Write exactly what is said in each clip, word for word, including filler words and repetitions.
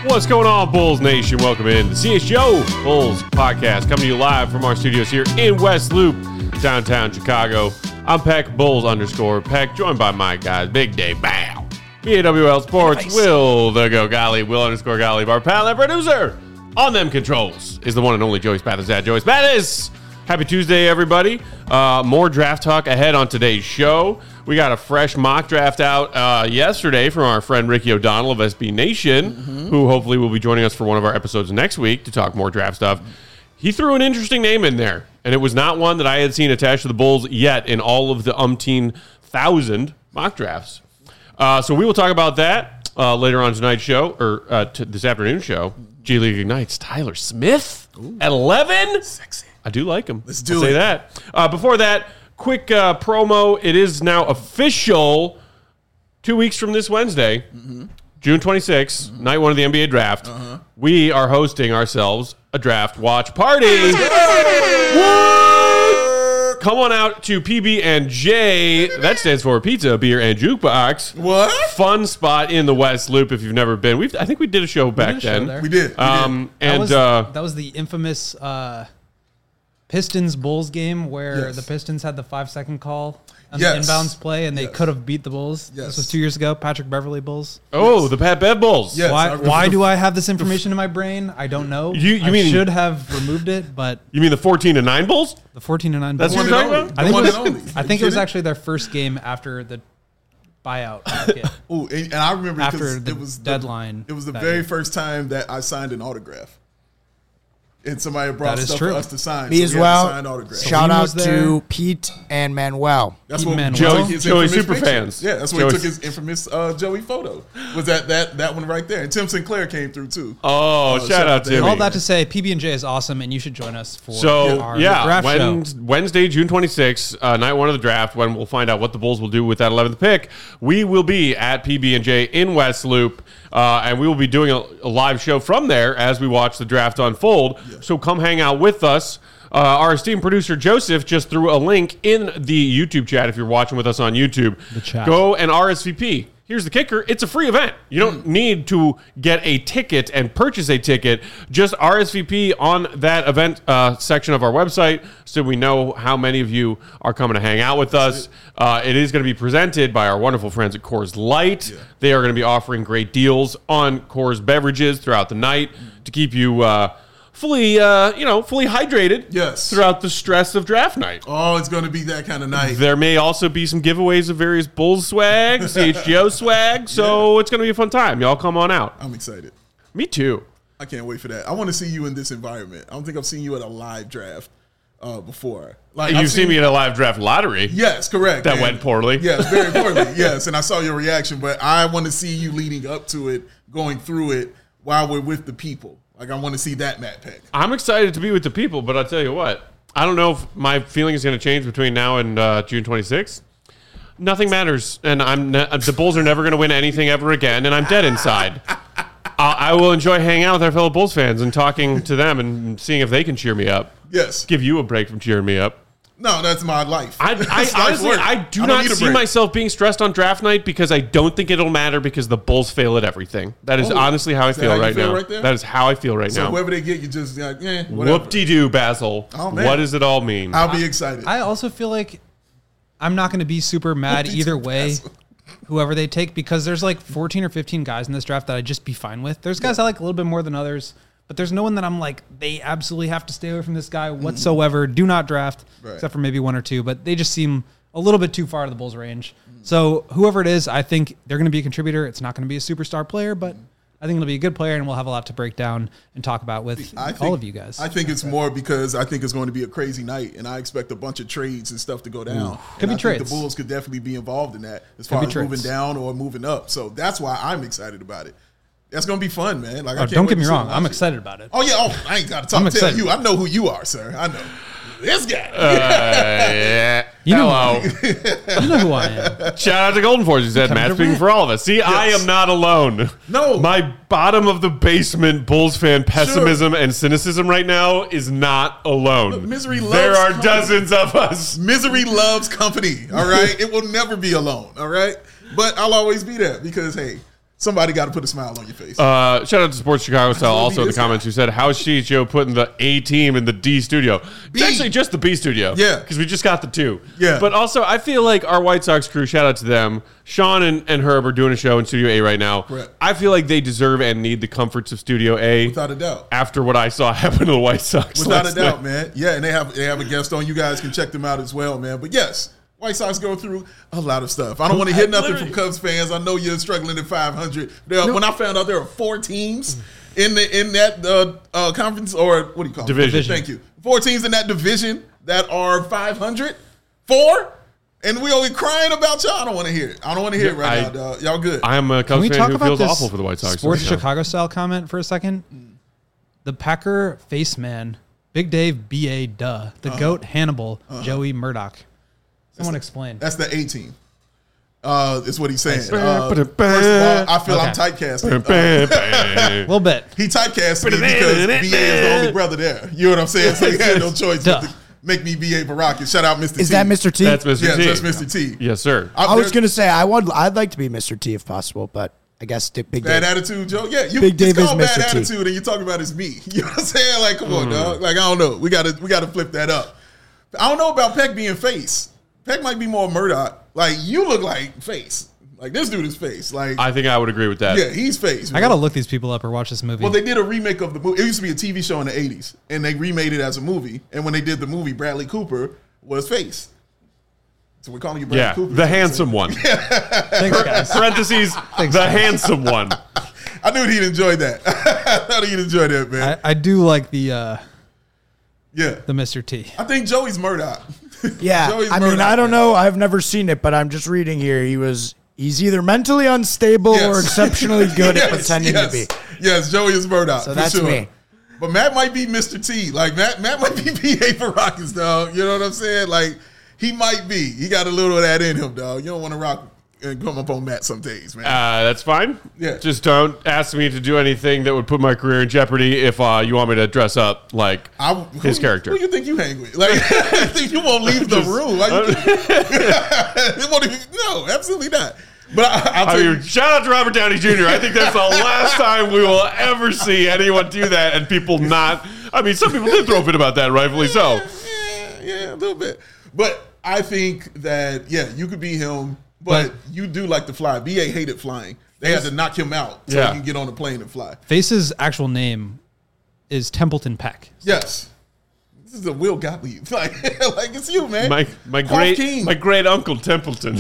What's going on, Bulls Nation? Welcome in the C H G O Bulls podcast, coming to you live from our studios here in West Loop, downtown Chicago. I'm Peck, Bulls underscore Peck, joined by my guys, Big Day Bow, B A W L Sports, nice. Will the Go Golly, Will underscore Golly, our pal and producer on them controls is the one and only Joey Spathis at Joey Spathis. Happy Tuesday, everybody. Uh, more draft talk ahead on today's show. We got a fresh mock draft out uh, yesterday from our friend Ricky O'Donnell of S B Nation, mm-hmm. who hopefully will be joining us for one of our episodes next week to talk more draft stuff. He threw an interesting name in there, and it was not one that I had seen attached to the Bulls yet in all of the umpteen thousand mock drafts. Uh, so we will talk about that uh, later on tonight's show, or uh, t- this afternoon show. G League Ignites Tyler Smith Ooh. At eleven. Sexy. I do like him. Let's do I'll it. Say that. Uh, before that, quick uh, promo. It is now official. Two weeks from this Wednesday, mm-hmm. June twenty-sixth, mm-hmm. night one of the N B A draft. Uh-huh. We are hosting ourselves a draft watch party. What? Come on out to P B and J. That stands for Pizza, Beer, and Jukebox. What? Fun spot in the West Loop if you've never been. We've I think we did a show back we then. Show we did. We um, did. And that was, uh, that was the infamous uh, Pistons Bulls game where yes. the Pistons had the five second call on yes. the inbounds play, and they yes. could have beat the Bulls. Yes. This was two years ago. Patrick Beverley Bulls. Oh, yes. the Pat Bev Bulls. Yes. Why? Why do I have this information in my brain? I don't know. You, you I mean should have removed it, but you mean the fourteen to nine Bulls? the fourteen to nine. That's Bulls. what you're talking about? I think, one it was, and only. I think it was actually their first game after the buyout market. Ooh, and, and I remember after the it was deadline. The, it was the that very year. first time that I signed an autograph. And somebody brought That is stuff true. for us to sign. Me so as we well. Had to sign autographs. Shout Salim out was there. to Pete and Manuel. That's Pete what Manuel. Joey, Joey- his Joey infamous super picture. fans. Yeah, that's where Joey- he took his infamous uh, Joey photo. Was that that that one right there? And Tim Sinclair came through too. Oh, Oh, shout, shout out out to to him. All that to say, P B and J is awesome, and you should join us for So, our yeah, draft when, show. Wednesday, June twenty-sixth, uh, night one of the draft, when we'll find out what the Bulls will do with that eleventh pick. We will be at P B and J in West Loop, uh, and we will be doing a, a live show from there as we watch the draft unfold. Yeah. So come hang out with us. Uh, our esteemed producer, Joseph, just threw a link in the YouTube chat if you're watching with us on YouTube. The chat. Go and R S V P. Here's the kicker. It's a free event. You don't need to get a ticket and purchase a ticket. Just R S V P on that event uh, section of our website so we know how many of you are coming to hang out with us. Uh, it is going to be presented by our wonderful friends at Coors Light. Yeah. They are going to be offering great deals on Coors beverages throughout the night to keep you uh, fully, uh, you know, fully hydrated Yes. throughout the stress of draft night. Oh, it's going to be that kind of night. There may also be some giveaways of various Bulls swag, C H G O swag, so Yeah. it's going to be a fun time. Y'all come on out. I'm excited. Me too. I can't wait for that. I want to see you in this environment. I don't think I've seen you at a live draft uh, before. Like You've I've seen me at a live draft lottery. Yes, correct. That And- went poorly. Yes, very poorly. Yes, and I saw your reaction, but I want to see you leading up to it, going through it while we're with the people. Like I want to see that Matt Peck. I'm excited to be with the people, but I'll tell you what. I don't know if my feeling is going to change between now and uh, June twenty-sixth. Nothing matters, and I'm ne- the Bulls are never going to win anything ever again, and I'm dead inside. I-, I will enjoy hanging out with our fellow Bulls fans and talking to them and seeing if they can cheer me up. Yes. Give you a break from cheering me up. No, that's my life. I, That's I life honestly, work. I do don't not need a see break. myself being stressed on draft night because I don't think it'll matter because the Bulls fail at everything. That is Oh, honestly how I is that feel how you right feel now. right there? That is how I feel right So now. whoever they get, you just like, eh, whatever. Whoop-de-doo, Basil. Oh, man. What does it all mean? I'll be excited. I also feel like I'm not going to be super mad Whoop-de-doo, either way, Basil. whoever they take, because there's like fourteen or fifteen guys in this draft that I'd just be fine with. There's guys I like a little bit more than others, but there's no one that I'm like, they absolutely have to stay away from this guy whatsoever. Do not draft, Right. except for maybe one or two, but they just seem a little bit too far to the Bulls' range. So whoever it is, I think they're going to be a contributor. It's not going to be a superstar player, but I think it'll be a good player, and we'll have a lot to break down and talk about with I think, all of you guys. I think it's more because I think it's going to be a crazy night, and I expect a bunch of trades and stuff to go down. Could And be I trades. think the Bulls could definitely be involved in that as Could far be as trades. moving down or moving up. So that's why I'm excited about it. That's going to be fun, man. Like, I Oh, can't don't wait get to me sit wrong. and I'm watch it. excited about it. Oh, yeah. Oh, I ain't got to talk I'm to tell excited. you. I know who you are, sir. I know. This guy. Uh, yeah. You know- Hello. You know who I am. Shout out to Golden Force. He said, Come Matt to speaking rant. for all of us. See, I am not alone. No. My bottom of the basement Bulls fan pessimism and cynicism right now is not alone. Look, misery loves There are company. dozens of us. Misery loves company, all right? It will never be alone, all right? But I'll always be there because, hey, Somebody got to put a smile on your face. Uh, shout out to Sports Chicago Style wanna also be in the this guy. comments who said, how's C H O putting the A team in the D studio? B. It's actually just the B studio. Yeah. Because we just got the two. Yeah. But also, I feel like our White Sox crew, shout out to them. Sean and, and Herb are doing a show in Studio A right now. Correct. I feel like they deserve and need the comforts of Studio A. Without a doubt. After what I saw happen to the White Sox. Without a last doubt, night. man. Yeah, and they have they have a guest on. You guys can check them out as well, man. But yes, White Sox go through a lot of stuff. I don't want to hear nothing from Cubs fans. I know you're struggling at five hundred. There, when I found out there are four teams in the in that uh, uh, conference, or what do you call it? Division. Thank you. Four teams in that division that are five hundred. Four? And we only crying about y'all. I don't want to hear it. I don't want to hear it right I- now, dog. Y'all good. I am a Can Cubs we fan talk who about feels this awful for the White Sox. Sports right now. Chicago style comment for a second? The Packer face man, Big Dave B A Duh, the GOAT Hannibal, Joey Murdoch. Someone explain. That's the A team. Uh, is what he's saying. Ba- Uh, ba- first of all, I feel I'm Okay. typecasting. Uh, A little bit. He typecast me because B A is the only brother there. You know what I'm saying? So he had no choice but Duh. to make me B A Baracus. Shout out Mister T. Is that Mister T? That's Mister Yeah, T. that's Mister T. Yes, sir. I, I was there's gonna say I would. I'd like to be Mister T if possible, but I guess the Big bad Dave. attitude, Joe. Yeah, you Big Dave it's called is bad Mister T. attitude, and you talking about it's me. You know what I'm saying? Like, come on, Mm. dog. Like, I don't know. We gotta we gotta flip that up. I don't know about Peck being face. Peck might be more Murdoch. Like, you look like face. Like, this dude is face. Like, I think I would agree with that. yeah, he's face. I got to look these people up or watch this movie. Well, they did a remake of the movie. It used to be a T V show in the eighties, and they remade it as a movie. And when they did the movie, Bradley Cooper was face. So we're calling you Bradley Yeah, Cooper. the handsome one. Thanks, guys. Parentheses, the handsome one. I knew he'd enjoy that. I thought he'd enjoy that, man. I, I do like the uh, yeah. the Mister T. I think Joey's Murdoch. Yeah, Joey's I mean, Murdoch, I don't man. know. I've never seen it, but I'm just reading here. He was. He's either mentally unstable Yes. or exceptionally good Yes, at pretending yes. to be. Yes, Joey is Murdoch. So for that's sure. me. But Matt might be Mister T. Like, Matt Matt might be B A for Rockets, dog. You know what I'm saying? Like, he might be. He got a little of that in him, dog. You don't want to rock and come up on Matt some days, man. Uh, that's fine. Yeah. Just don't ask me to do anything that would put my career in jeopardy if uh, you want me to dress up like I, his who, character. Who you think you hang with? Like, you think you won't leave the Just- room? Like, you it won't even, no, absolutely not. But I, I'll I tell mean, you, shout out to Robert Downey Junior I think that's the last time we will ever see anyone do that and people not. I mean, some people did throw a fit about that, rightfully so. yeah, yeah, a little bit. But I think that, yeah, you could be him, but, But- you do like to fly. B A hated flying. They had to knock him out so Yeah. he can get on a plane and fly. Face's actual name is Templeton Peck. Yes. This is a Will Gottlieb. Like, like it's you, man. My my Quaff great King. my great uncle Templeton.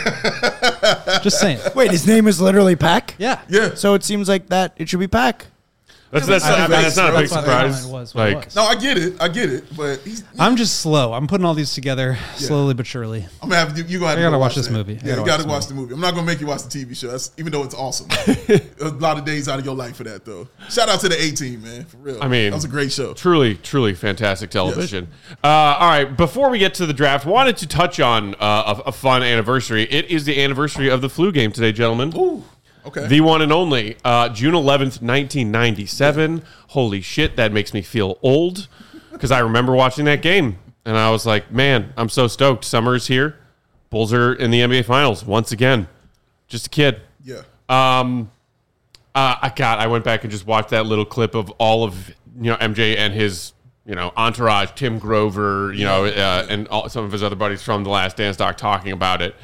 Just saying. Wait, his name is literally Pack. Yeah. Yeah. So it seems like that it should be Pack. That's that's, I not, think that's not a big that's why the comment surprise. was what it Like was. No, I get it. I get it. But he's, I'm just slow. I'm putting all these together slowly but surely. I'm gonna have you. You gonna have I to gotta go watch this that. movie. I Yeah, gotta you watch gotta this watch the movie. I'm not gonna make you watch the T V show, that's, even though it's awesome. A lot of days out of your life for that, though. Shout out to the A Team, man. For real. I mean, that was a great show. Truly, truly fantastic television. Uh, all right, before we get to the draft, wanted to touch on uh, a, a fun anniversary. It is the anniversary of the flu game today, gentlemen. Ooh, okay. The one and only uh, June eleventh, nineteen ninety-seven. Holy shit, that makes me feel old because I remember watching that game and I was like, man, I'm so stoked. Summer's here. Bulls are in the N B A Finals once again. Just a kid. yeah. Um, uh, I got. I went back and just watched that little clip of all of you know M J and his you know entourage, Tim Grover, you know, uh, and all, some of his other buddies from The Last Dance doc talking about it.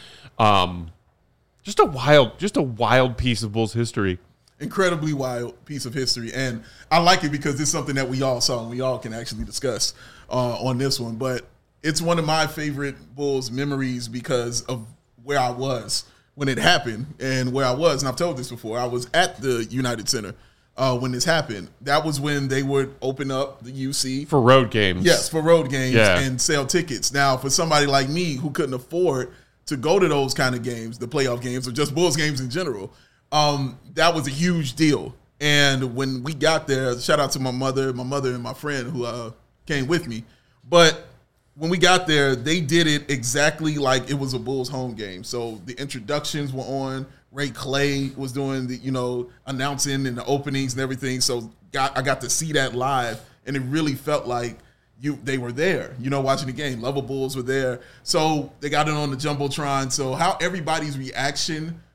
Um, just a wild, just a wild piece of Bulls history. Incredibly wild piece of history, and I like it because it's something that we all saw and we all can actually discuss uh, on this one. But it's one of my favorite Bulls memories because of where I was when it happened and where I was. And I've told this before. I was at the United Center uh, when this happened. That was when they would open up the U C For road games. Yes, for road games Yeah. and sell tickets. Now, for somebody like me who couldn't afford to go to those kind of games, the playoff games or just Bulls games in general, um, that was a huge deal. And when we got there, shout out to my mother, my mother and my friend who uh, came with me. But when we got there, they did it exactly like it was a Bulls home game. So the introductions were on. Ray Clay was doing the, you know, announcing and the openings and everything. So got I got to see that live, and it really felt like you they were there, you know, watching the game. Level Bulls were there. So they got it on the Jumbotron. So how everybody's reaction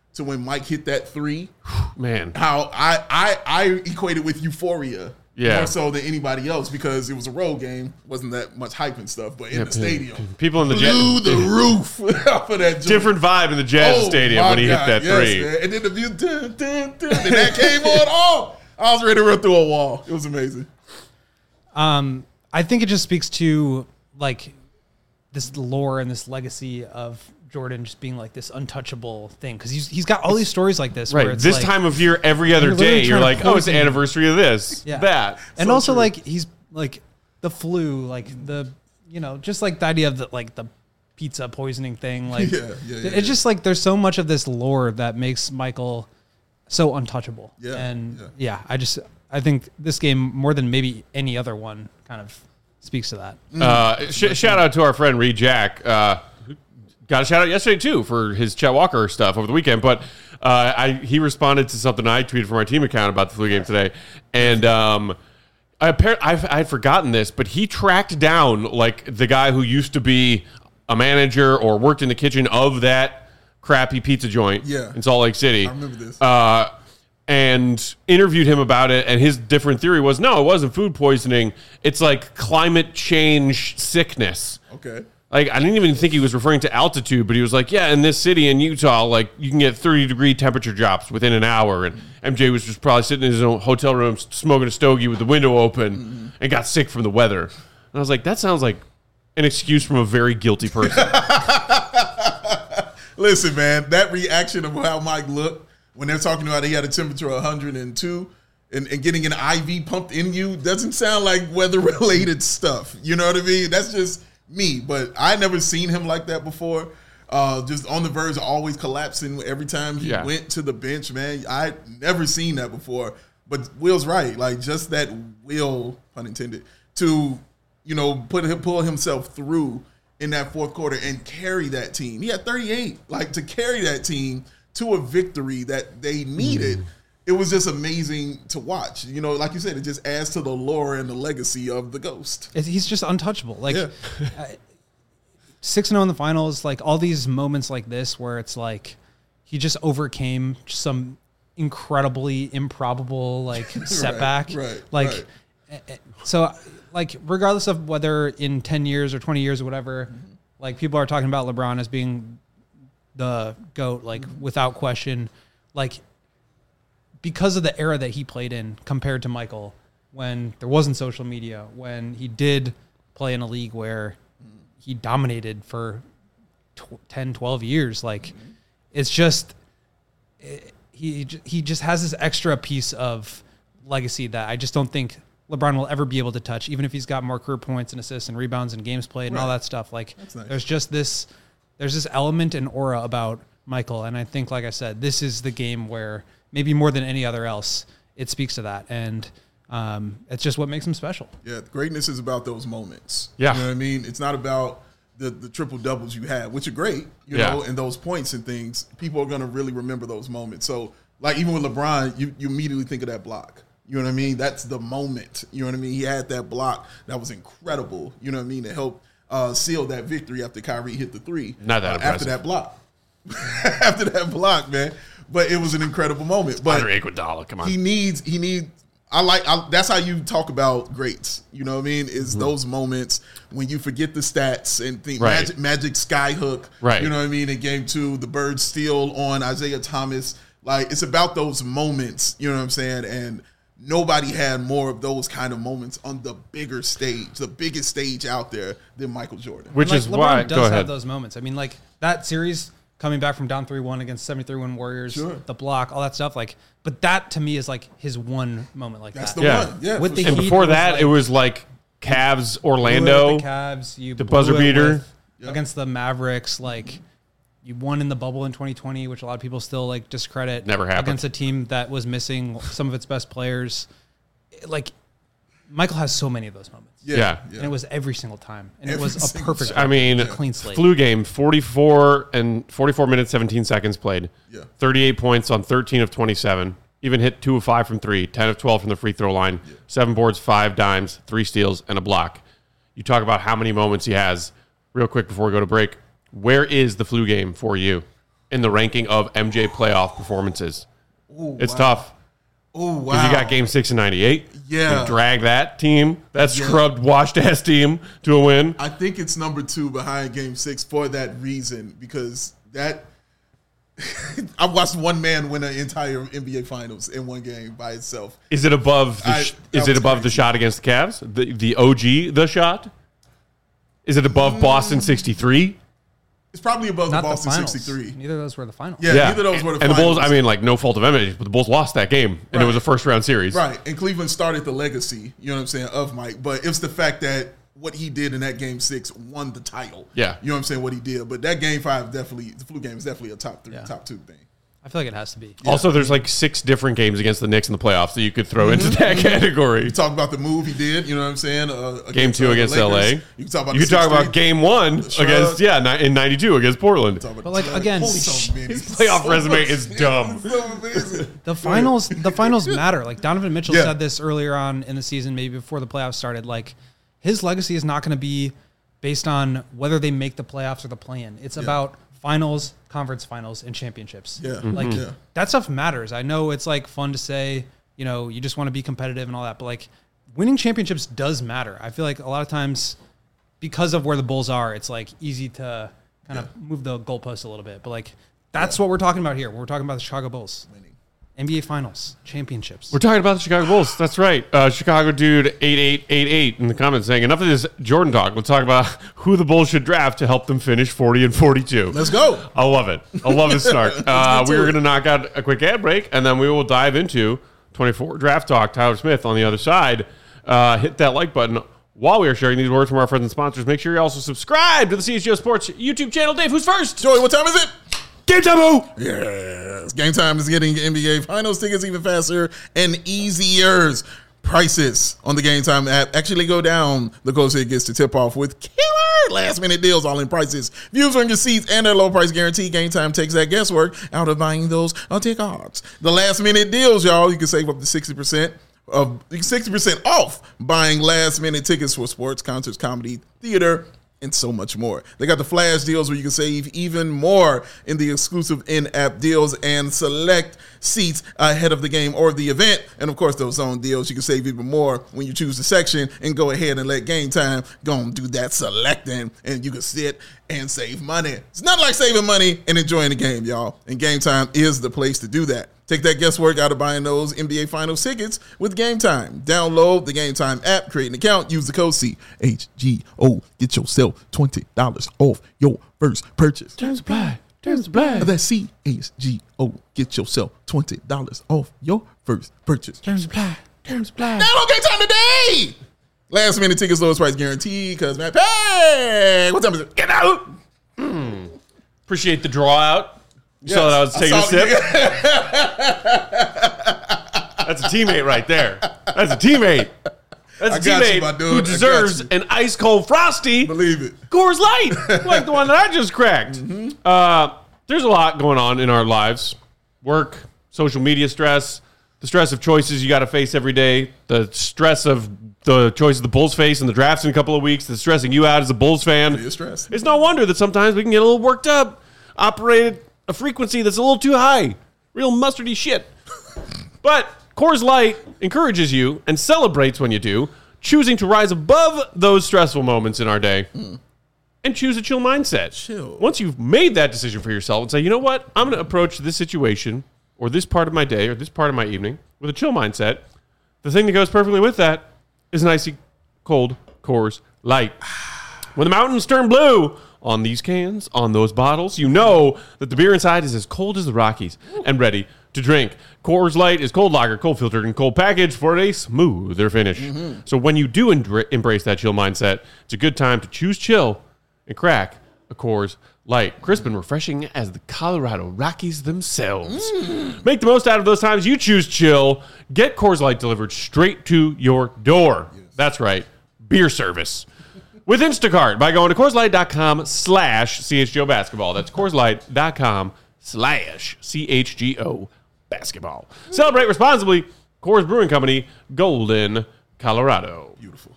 to when Mike hit that three. Man. How I I I equated with euphoria. Yeah. More so than anybody else because it was a road game. Wasn't that much hype and stuff. But in Yeah, the stadium, people in the blew jet, the roof off of that joint. different vibe in the Jazz Oh, Stadium my when he God, hit that yes, three. man. And then the music, dun, dun, dun, and that came on. Oh, I was ready to run through a wall. It was amazing. Um, I think it just speaks to like this lore and this legacy of Jordan just being like this untouchable thing because he's he's got all these stories like this. Right. Where it's This like, time of year, every other You're literally day, you're trying to like, oh, it's the poison- anniversary of this, Yeah. that. and So also true. like he's like the flu, like the you know just like the idea of the like the pizza poisoning thing. Like Yeah, yeah, yeah, it's yeah. just like there's so much of this lore that makes Michael so untouchable. Yeah, and yeah. yeah, I just I think this game more than maybe any other one kind of speaks to that. Uh, sh- shout out to our friend Reed Jack. Uh, who got a shout out yesterday too for his Chet Walker stuff over the weekend. But uh, I he responded to something I tweeted from our team account about the flu game today, and um, I apparently I had forgotten this, but he tracked down like the guy who used to be a manager or worked in the kitchen of that crappy pizza joint Yeah. in Salt Lake City. I remember this. Uh, and interviewed him about it, and his different theory was, no, it wasn't food poisoning. It's like climate change sickness. Okay. Like, I didn't even think he was referring to altitude, but he was like, yeah, in this city in Utah, like, you can get thirty degree temperature drops within an hour. And M J was just probably sitting in his own hotel room smoking a stogie with the window open Mm-hmm. and got sick from the weather. And I was like, that sounds like an excuse from a very guilty person. Listen, man, that reaction of how Mike looked when they're talking about he had a temperature of one hundred two and, and getting an I V pumped in you doesn't sound like weather-related stuff. You know what I mean? That's just me. But I never seen him like that before. Uh, just on the verge of always collapsing every time he Yeah. went to the bench, man. I never seen that before. But Will's right. Like, just that will, pun intended, to, you know, put him, pull himself through in that fourth quarter and carry that team. He had thirty-eight. Like, to carry that team to a victory that they needed, it was just amazing to watch. You know, like you said, it just adds to the lore and the legacy of the Ghost. It's, he's just untouchable. Like Yeah. six and zero in the finals. Like all these moments like this where it's like he just overcame some incredibly improbable like setback. right, Like right. eh, eh, so like regardless of whether in ten years or twenty years or whatever, Mm-hmm. like people are talking about LeBron as being the GOAT, like Mm-hmm. without question, like because of the era that he played in compared to Michael, when there wasn't social media, when he did play in a league where he dominated for tw- ten, twelve years. Like it's just, it, he, j- he just has this extra piece of legacy that I just don't think LeBron will ever be able to touch, even if he's got more career points and assists and rebounds and games played and all Right. that stuff. Like That's nice. there's just this, there's this element and aura about Michael. And I think, like I said, this is the game where maybe more than any other else, it speaks to that. And um, it's just what makes him special. Yeah, greatness is about those moments. Yeah. You know what I mean? It's not about the, the triple doubles you had, which are great, you Yeah. know, and those points and things. People are going to really remember those moments. So, like, even with LeBron, you, you immediately think of that block. You know what I mean? That's the moment. You know what I mean? He had that block that was incredible, you know what I mean, to help uh, seal that victory after Kyrie hit the three. Not that uh, impressive. After that block. after that block, man. But it was an incredible moment. But Andre Iguodala, come on. he needs he needs I like I, that's how you talk about greats, you know what I mean, is those moments when you forget the stats and think Right. magic, magic skyhook, Right. you know what I mean, in game two, the bird steal on Isaiah Thomas. Like, it's about those moments, you know what I'm saying, and nobody had more of those kind of moments on the bigger stage, the biggest stage out there than Michael Jordan. Which And, is like, why, LeBron go does ahead. have those moments. I mean, like that series coming back from down three one against seventy-three win Warriors, Sure. the block, all that stuff. Like, but that to me is like his one moment like That's that. the Yeah. one. Yeah. With for the sure. And Heat before was that, like- it was like Cavs, Blew it Orlando. with the Cavs, you the blew buzzer it beater. with- Yep. against the Mavericks. Like, you won in the bubble in twenty twenty, which a lot of people still like discredit. Never happened. Against a team that was missing some of its best players. Like, Michael has so many of those moments. Yeah. And it was every single time. And Every it was a single perfect I mean, clean slate. flu game, forty-four and forty-four minutes, seventeen seconds played. Yeah. thirty-eight points on thirteen of twenty-seven. Even hit two of five from three, ten of twelve from the free throw line, seven boards, five dimes, three steals, and a block. You talk about how many moments he has. Real quick before we go to break, where is the flu game for you? in the ranking of M J playoff performances. Ooh, it's wow. tough. Oh, wow. Because you got game six in ninety-eight. Yeah. You drag that team, that Yeah. scrubbed, washed-ass team to a win. I think it's number two behind game six for that reason, because that I've watched one man win an entire N B A Finals in one game by itself. Is it above the I- sh- that Is it was above the crazy. shot against the Cavs? The, the O G, the shot? Is it above Mm. Boston sixty-three? It's probably above Not the Boston the finals. sixty-three. Neither of those were the finals. Yeah, neither of those were the and finals. the Bulls, I mean, like, no fault of M J, but the Bulls lost that game, and it was a first-round series. Right, and Cleveland started the legacy, you know what I'm saying, of Mike. But it's the fact that what he did in that game six won the title. Yeah. You know what I'm saying, what he did. But that game five definitely, the flu game is definitely a top three, Yeah. top two thing. I feel like it has to be. Also, there's like six different games against the Knicks in the playoffs that you could throw into that category. You talk about the move he did, you know what I'm saying? Uh, Game two uh, the against Lakers. L A. You can talk about You the could talk about six-three. game one Shrug. against, yeah, ni- in ninety-two against Portland. Talk about But, like, the- again, Holy so many. His playoff So resume much. is dumb. So amazing. The finals, the finals matter. Like Donovan Mitchell Yeah. said this earlier on in the season, maybe before the playoffs started. Like his legacy is not going to be based on whether they make the playoffs or the play-in. It's about finals, conference finals, and championships. Yeah. Mm-hmm. Like Yeah. that stuff matters. I know it's like fun to say, you know, you just want to be competitive and all that, but like winning championships does matter. I feel like a lot of times because of where the Bulls are, it's like easy to kind of move the goalpost a little bit. But like that's what we're talking about here. We're talking about the Chicago Bulls. N B A Finals, championships. We're talking about the Chicago Bulls. That's right. Uh, Chicago dude eight eight eight eight in the comments saying, enough of this Jordan talk. Let's talk about who the Bulls should draft to help them finish forty and forty-two. Let's go. I love it. I love this start. Uh, get we to are it. going to knock out a quick ad break, and then we will dive into twenty-four draft talk. Tyler Smith on the other side. Uh, hit that like button. While we are sharing these words from our friends and sponsors, make sure you also subscribe to the C H G O Sports YouTube channel. Dave, who's first? Joey, what time is it? Game time! Yes. Game time is getting N B A Finals tickets even faster and easier. Prices on the Game Time app actually go down the closer it gets to tip off with killer last minute deals, all in prices. Views on your seats and their low price guarantee. Game Time takes that guesswork out of buying those uh, tickets. The last minute deals, y'all, you can save up to sixty percent of sixty percent off buying last minute tickets for sports, concerts, comedy, theater, and so much more. They got the flash deals where you can save even more in the exclusive in-app deals and select seats ahead of the game or the event. And of course, those zone deals, you can save even more when you choose the section and go ahead and let Game Time go and do that selecting, and you can sit and save money. It's not like saving money and enjoying the game, y'all. And Game Time is the place to do that. Take that guesswork out of buying those N B A Finals tickets with Game Time. Download the Game Time app, create an account, use the code C H G O. Get yourself twenty dollars off your first purchase. Terms apply. Terms apply. That's C H G O. Get yourself twenty dollars off your first purchase. Terms apply. Terms apply. Download Game Time today! Last minute tickets, lowest price guarantee, because man, hey, what time is it? Get out! Appreciate the draw out. You Yes, saw that I was I taking a saw sip? it. That's a teammate right there. That's a teammate. That's a I got you, teammate my dude. I who got deserves you. an ice cold frosty Believe it. Coors Light, like the one that I just cracked. Mm-hmm. Uh, there's a lot going on in our lives: work, social media stress, the stress of choices you got to face every day, the stress of the choices the Bulls face in the drafts in a couple of weeks, that's stressing you out as a Bulls fan. You're stressed. It's no wonder that sometimes we can get a little worked up, operate at a frequency that's a little too high, real mustardy shit. But Coors Light encourages you and celebrates when you do, choosing to rise above those stressful moments in our day and choose a chill mindset. Chill. Once you've made that decision for yourself and say, you know what, I'm going to approach this situation or this part of my day or this part of my evening with a chill mindset, the thing that goes perfectly with that is an icy cold Coors Light. When the mountains turn blue on these cans, on those bottles, you know that the beer inside is as cold as the Rockies and ready to drink. Coors Light is cold lager, cold filtered, and cold packaged for a smoother finish. Mm-hmm. So when you do embra- embrace that chill mindset, it's a good time to choose chill and crack a Coors Light. Crisp and refreshing as the Colorado Rockies themselves. Mm. Make the most out of those times you choose chill. Get Coors Light delivered straight to your door. Yes. That's right, beer service. With Instacart by going to CoorsLight.com slash CHGO basketball. That's CoorsLight.com slash CHGO basketball. Celebrate responsibly. Coors Brewing Company, Golden, Colorado. Beautiful.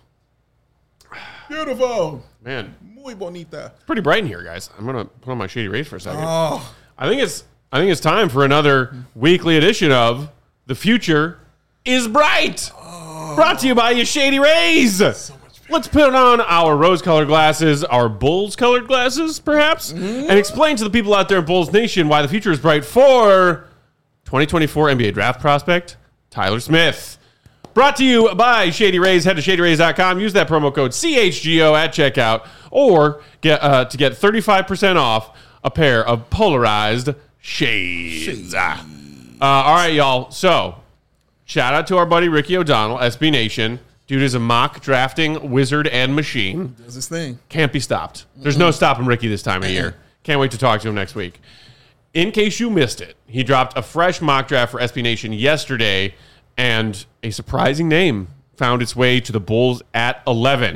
Beautiful. Man, Muy bonita. it's pretty bright in here, guys. I'm going to put on my Shady Rays for a second. Oh, I think it's I think it's time for another weekly edition of The Future is Bright. Oh. Brought to you by your Shady Rays. So Let's put on our rose-colored glasses, our Bulls-colored glasses, perhaps, mm. and explain to the people out there in Bulls Nation why the future is bright for twenty twenty-four N B A draft prospect Tyler Smith. Brought to you by Shady Rays. Head to shady rays dot com. Use that promo code C H G O at checkout, or get uh, to get thirty-five percent off a pair of polarized shades. shades. Ah. Uh, all right, y'all. So, shout out to our buddy Ricky O'Donnell, S B Nation. Dude is a mock drafting wizard and machine. Does his thing. Can't be stopped. There's no stopping Ricky this time of year. Can't wait to talk to him next week. In case you missed it, he dropped a fresh mock draft for S B Nation yesterday, and a surprising name found its way to the Bulls at eleven.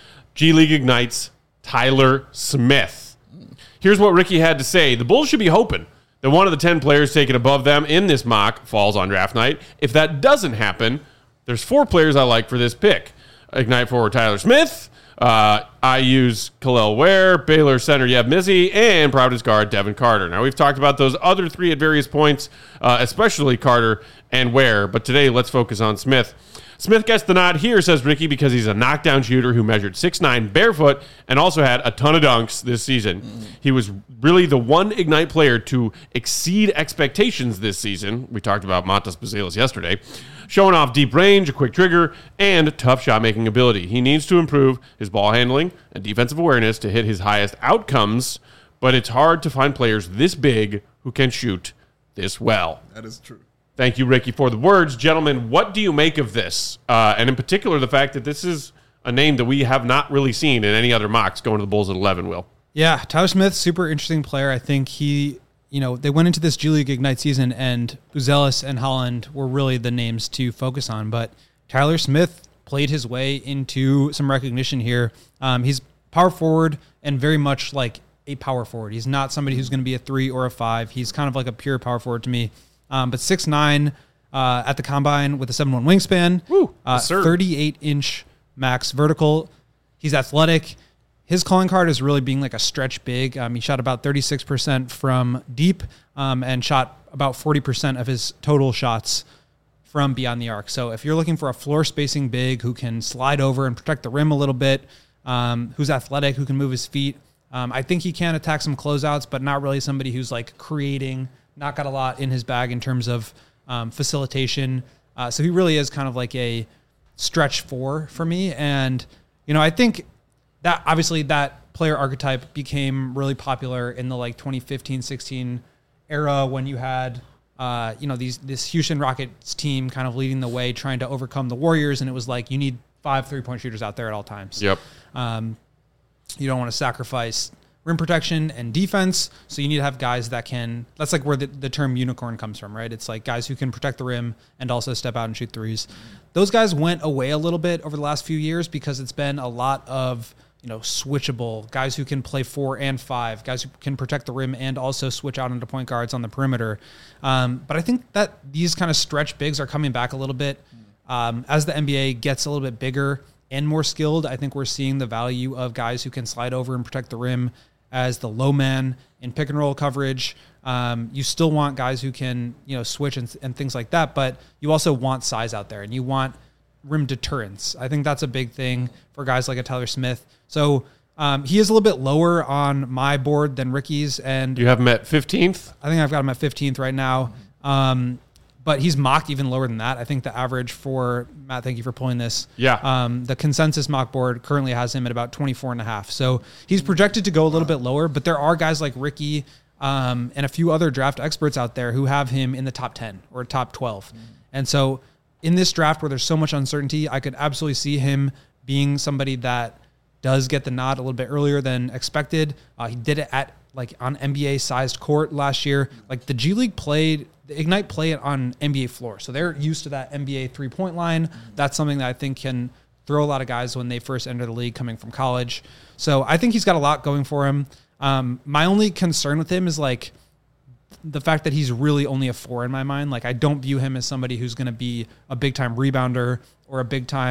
G League Ignite's Tyler Smith. Here's what Ricky had to say. The Bulls should be hoping that one of the ten players taken above them in this mock falls on draft night. If that doesn't happen, there's four players I like for this pick. Ignite forward Tyler Smith. Uh, I use Khalil Ware, Baylor center Yeb Mizzi, and Providence guard Devin Carter. Now, we've talked about those other three at various points, uh, especially Carter and Ware, but today let's focus on Smith. Smith gets the nod here, says Ricky, because he's a knockdown shooter who measured six nine barefoot and also had a ton of dunks this season. Mm. He was really the one Ignite player to exceed expectations this season. We talked about Montas Bazelis yesterday. Showing off deep range, a quick trigger, and tough shot-making ability. He needs to improve his ball handling and defensive awareness to hit his highest outcomes, but it's hard to find players this big who can shoot this well. That is true. Thank you, Ricky, for the words. Gentlemen, what do you make of this? Uh, and in particular, the fact that this is a name that we have not really seen in any other mocks going to the Bulls at eleven, Will. Yeah, Tyler Smith, super interesting player. I think he... You know, they went into this G League Ignite season, and Buzelis and Holland were really the names to focus on. But Tyler Smith played his way into some recognition here. Um, he's power forward and very much like a power forward. He's not somebody who's going to be a three or a five. He's kind of like a pure power forward to me. Um, but six nine uh, at the combine with a seven one wingspan, Woo, uh, yes, sir. thirty-eight inch max vertical. He's athletic. His calling card is really being like a stretch big. Um, he shot about thirty-six percent from deep um, and shot about forty percent of his total shots from beyond the arc. So if you're looking for a floor spacing big who can slide over and protect the rim a little bit, um, who's athletic, who can move his feet, um, I think he can attack some closeouts, but not really somebody who's like creating, not got a lot in his bag in terms of um, facilitation. Uh, so he really is kind of like a stretch four for me. And, you know, I think that obviously that player archetype became really popular in the like twenty fifteen sixteen era when you had, uh, you know, these this Houston Rockets team kind of leading the way, trying to overcome the Warriors. And it was like, you need five three-point shooters out there at all times. Yep. Um, you don't want to sacrifice rim protection and defense. So you need to have guys that can, that's like where the, the term unicorn comes from, right? It's like guys who can protect the rim and also step out and shoot threes. Those guys went away a little bit over the last few years because it's been a lot of, you know, switchable guys who can play four and five, guys who can protect the rim and also switch out into point guards on the perimeter. Um, but I think that these kind of stretch bigs are coming back a little bit. Um, as the N B A gets a little bit bigger and more skilled, I think we're seeing the value of guys who can slide over and protect the rim as the low man in pick and roll coverage. Um, you still want guys who can, you know, switch and, and things like that, but you also want size out there and you want rim deterrence. I think that's a big thing for guys like a Tyler Smith. So um, he is a little bit lower on my board than Ricky's. And you have him at fifteenth? I think I've got him at fifteenth right now. Um, but he's mocked even lower than that. I think the average for, Matt, thank you for pulling this. Yeah. Um, the consensus mock board currently has him at about twenty-four and a half. So he's projected to go a little bit lower, but there are guys like Ricky um, and a few other draft experts out there who have him in the top ten or top twelve. Mm. And so in this draft where there's so much uncertainty, I could absolutely see him being somebody that does get the nod a little bit earlier than expected. Uh, he did it at like on N B A-sized court last year. Like the G League played, the Ignite play it on N B A floor. So they're used to that N B A three-point line. That's something that I think can throw a lot of guys when they first enter the league coming from college. So I think he's got a lot going for him. Um, my only concern with him is like the fact that he's really only a four in my mind. Like I don't view him as somebody who's going to be a big-time rebounder or a big-time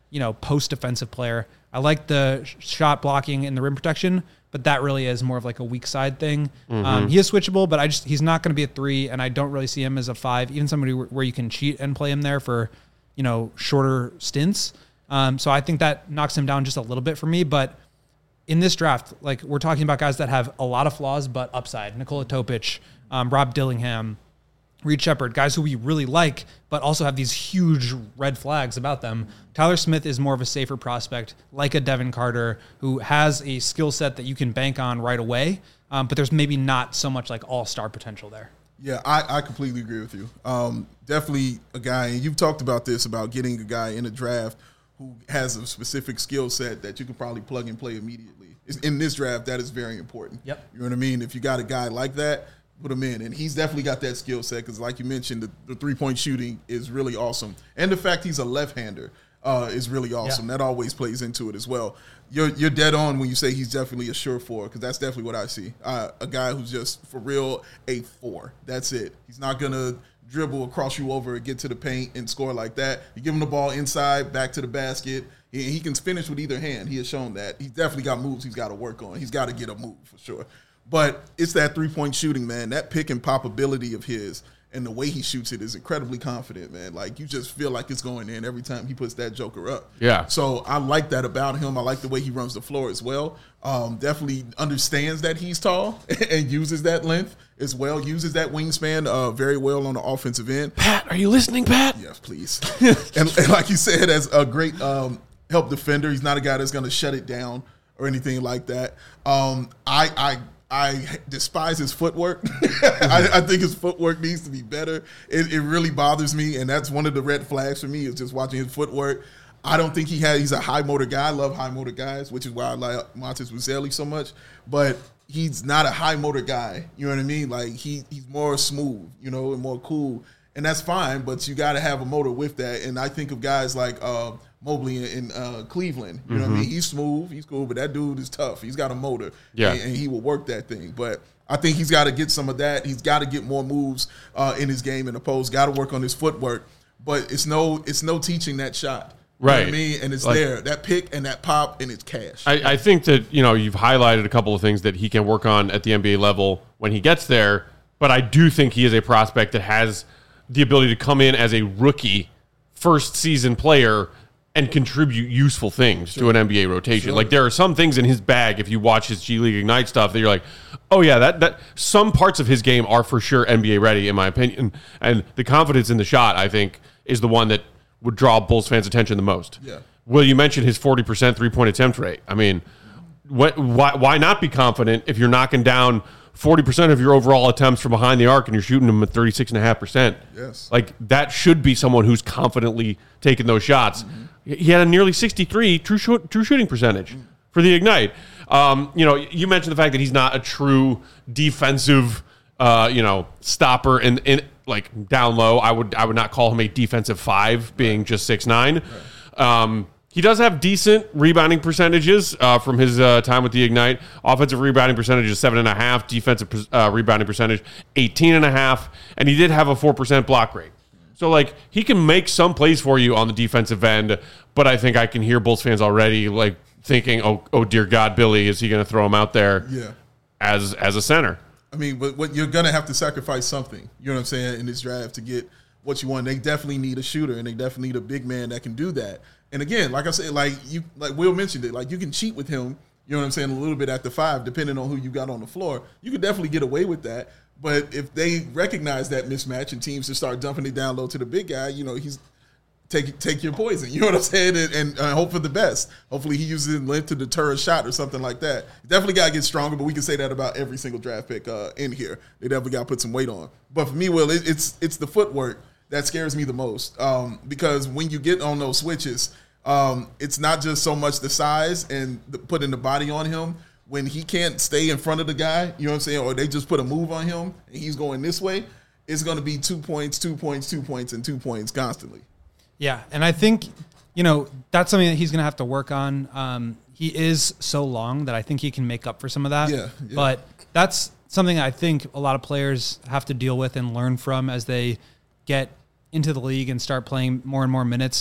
you know, post defensive player. I like the sh- shot blocking and the rim protection, but that really is more of like a weak side thing. Mm-hmm. Um, he is switchable, but I just he's not going to be a three, and I don't really see him as a five. Even somebody where, where you can cheat and play him there for, you know, shorter stints. Um, so I think that knocks him down just a little bit for me, but. In this draft, like we're talking about guys that have a lot of flaws, but upside. Nikola Topic, um, Rob Dillingham, Reed Shepard, guys who we really like, but also have these huge red flags about them. Tyler Smith is more of a safer prospect, like a Devin Carter, who has a skill set that you can bank on right away, um, but there's maybe not so much like all-star potential there. Yeah, I, I completely agree with you. Um, definitely a guy, and you've talked about this, about getting a guy in a draft who has a specific skill set that you can probably plug and play immediately. In this draft, that is very important. Yep. You know what I mean? If you got a guy like that, put him in. And he's definitely got that skill set because, like you mentioned, the, the three-point shooting is really awesome. And the fact he's a left-hander uh, is really awesome. Yeah. That always plays into it as well. You're you're dead on when you say he's definitely a sure four because that's definitely what I see. Uh, a guy who's just, for real, a four. That's it. He's not going to dribble across you over and get to the paint and score like that. You give him the ball inside, back to the basket. He, he can finish with either hand. He has shown that. He's definitely got moves he's got to work on. He's got to get a move for sure. But it's that three-point shooting, man. That pick and pop ability of his and the way he shoots it is incredibly confident, man. Like, you just feel like it's going in every time he puts that joker up. Yeah. So I like that about him. I like the way he runs the floor as well. Um, definitely understands that he's tall and uses that length as well, uses that wingspan uh, very well on the offensive end. Pat, are you listening, Pat? Yes, please. and, and like you said, as a great um, help defender, he's not a guy that's going to shut it down or anything like that. Um, I, I I despise his footwork. I, I think his footwork needs to be better. It, it really bothers me, and that's one of the red flags for me is just watching his footwork. I don't think he has. He's a high motor guy. I love high motor guys, which is why I like Montez Uzeli so much. But he's not a high motor guy. You know what I mean? Like he he's more smooth, you know, and more cool, and that's fine. But you got to have a motor with that. And I think of guys like uh, Mobley in, in uh, Cleveland. You know mm-hmm. what I mean? He's smooth, he's cool, but that dude is tough. He's got a motor, yeah, and, and he will work that thing. But I think he's got to get some of that. He's got to get more moves uh, in his game in the post. Got to work on his footwork. But it's no it's no teaching that shot. You right. know what I mean? And it's like, there. That pick and that pop and it's cash. I, I think that, you know, you've highlighted a couple of things that he can work on at the N B A level when he gets there, but I do think he is a prospect that has the ability to come in as a rookie first season player and contribute useful things sure. to an N B A rotation. Sure. Like there are some things in his bag if you watch his G League Ignite stuff that you're like, oh yeah, that that some parts of his game are for sure N B A ready in my opinion. And the confidence in the shot, I think, is the one that would draw Bulls fans' attention the most. Yeah. Will, you mentioned his forty percent three-point attempt rate. I mean, what, why why not be confident if you're knocking down forty percent of your overall attempts from behind the arc and you're shooting them at thirty-six point five percent? Yes. Like, that should be someone who's confidently taking those shots. Mm-hmm. He had a nearly sixty-three true, shoot, true shooting percentage mm-hmm. for the Ignite. Um, you know, you mentioned the fact that he's not a true defensive, uh, you know, stopper in in like down low. I would I would not call him a defensive five, being right. just six nine. Right. Um, he does have decent rebounding percentages uh, from his uh, time with the Ignite. Offensive rebounding percentage is seven and a half. Defensive uh, rebounding percentage eighteen and a half, and he did have a four percent block rate. So like he can make some plays for you on the defensive end, but I think I can hear Bulls fans already like thinking, oh oh dear God, Billy, is he going to throw him out there? Yeah. as as a center? I mean, but what you're gonna have to sacrifice something. You know what I'm saying in this draft to get what you want. They definitely need a shooter, and they definitely need a big man that can do that. And again, like I said, like you, like Will mentioned it, like you can cheat with him. You know what I'm saying? A little bit at the five, depending on who you got on the floor. You could definitely get away with that. But if they recognize that mismatch and teams just start dumping it down low to the big guy, you know, he's take take your poison. You know what I'm saying? And, and uh, hope for the best. Hopefully he uses it length to deter a shot or something like that. Definitely got to get stronger, but we can say that about every single draft pick uh, in here. They definitely got to put some weight on. But for me, Will, it, it's it's the footwork that scares me the most um, because when you get on those switches, um, it's not just so much the size and the, putting the body on him. When he can't stay in front of the guy, you know what I'm saying, or they just put a move on him and he's going this way, it's going to be two points, two points, two points, and two points constantly. Yeah, and I think, you know, that's something that he's going to have to work on. Um, he is so long that I think he can make up for some of that. Yeah, yeah. But that's something I think a lot of players have to deal with and learn from as they get into the league and start playing more and more minutes.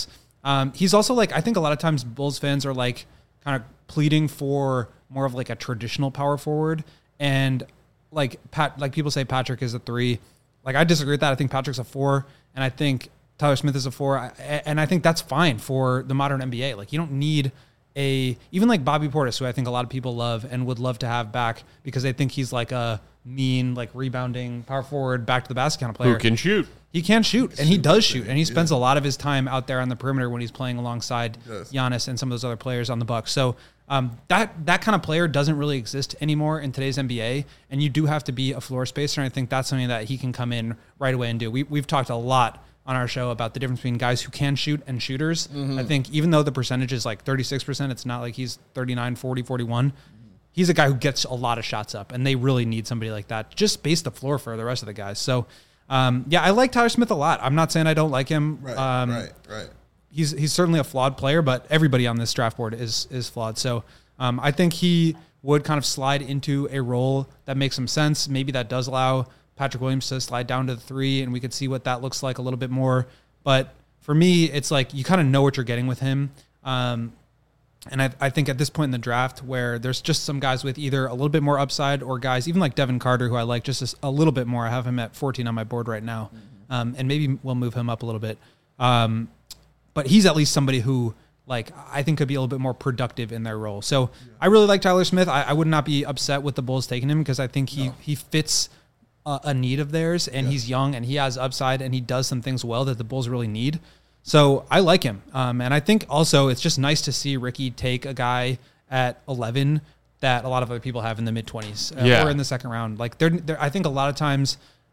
Um, he's also like, I think a lot of times Bulls fans are like kind of pleading for more of like a traditional power forward. And like Pat, like people say Patrick is a three. Like I disagree with that. I think Patrick's a four, and I think Tyler Smith is a four. And I think that's fine for the modern N B A. Like you don't need a, even like Bobby Portis, who I think a lot of people love and would love to have back because they think he's like a mean, like rebounding power forward, back to the basket kind of player. Who can shoot. He can shoot, and he does shoot, and he spends yeah. a lot of his time out there on the perimeter when he's playing alongside yes. Giannis and some of those other players on the Bucks. So um, that that kind of player doesn't really exist anymore in today's N B A, and you do have to be a floor spacer, and I think that's something that he can come in right away and do. We, we've talked a lot on our show about the difference between guys who can shoot and shooters. Mm-hmm. I think even though the percentage is like thirty-six percent, it's not like he's thirty-nine, forty, forty-one. He's a guy who gets a lot of shots up, and they really need somebody like that. Just space the floor for the rest of the guys. So, um, yeah, I like Tyler Smith a lot. I'm not saying I don't like him. Right, um, right, right. He's he's certainly a flawed player, but everybody on this draft board is is flawed. So um, I think he would kind of slide into a role that makes some sense. Maybe that does allow Patrick Williams to slide down to the three, and we could see what that looks like a little bit more. But for me, it's like you kind of know what you're getting with him. Um, And I, I think at this point in the draft where there's just some guys with either a little bit more upside or guys, even like Devin Carter, who I like just a, a little bit more. I have him at fourteen on my board right now. Mm-hmm. Um, and maybe we'll move him up a little bit. Um, but he's at least somebody who like I think could be a little bit more productive in their role. So yeah. I really like Tyler Smith. I, I would not be upset with the Bulls taking him because I think he, no. he fits a, a need of theirs, and yeah. he's young and he has upside and he does some things well that the Bulls really need. So I like him. Um, and I think also it's just nice to see Ricky take a guy at eleven that a lot of other people have in the mid-twenties uh, yeah. or in the second round. Like they're, they're, I think a lot of times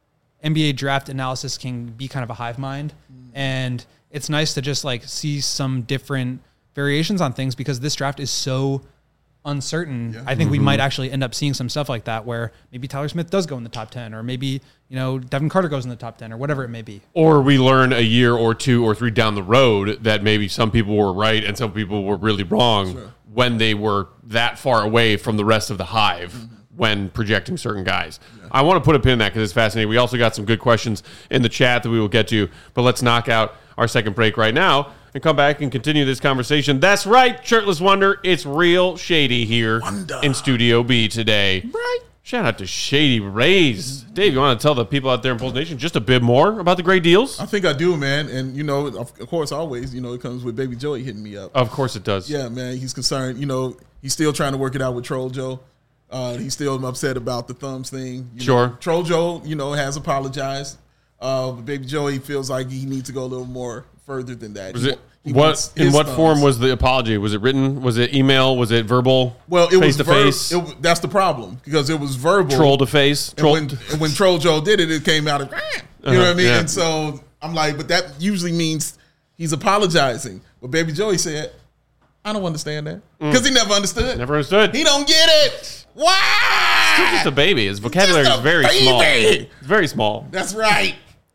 N B A draft analysis can be kind of a hive mind. Mm. And it's nice to just like see some different variations on things because this draft is so uncertain. Yeah. I think mm-hmm. we might actually end up seeing some stuff like that where maybe Tyler Smith does go in the top ten or maybe, you know, Devin Carter goes in the top ten or whatever it may be. Or we learn a year or two or three down the road that maybe some people were right and some people were really wrong sure. when they were that far away from the rest of the hive mm-hmm. when projecting certain guys. Yeah. I want to put a pin in that because it's fascinating. We also got some good questions in the chat that we will get to, but let's knock out our second break right now and come back and continue this conversation. That's right, Shirtless Wonder. It's real Shady here Wonder. in Studio B today. Right. Shout out to Shady Rays. Dave, you want to tell the people out there in Bulls Nation just a bit more about the great deals? I think I do, man. And, you know, of course, always, you know, it comes with Baby Joey hitting me up. Of course it does. Yeah, man. He's concerned. You know, he's still trying to work it out with Troll Joe. Uh, he's still upset about the thumbs thing. You sure. know, Troll Joe, you know, has apologized. Uh, but Baby Joey feels like he needs to go a little more further than that. Was he, it what in what thumbs. form was the apology? Was it written? Was it email? Was it verbal? Well, it face was to ver- face. It, that's the problem because it was verbal. Troll to face. And Troll when, and when Troll Joe did it, it came out of you uh-huh, know what I mean. Yeah. And so I'm like, but that usually means he's apologizing. But Baby Joey said, "I don't understand that because mm. he never understood. Never understood. He don't get it. Why? He's still just a baby. His vocabulary is very baby. small. It's very small. That's right."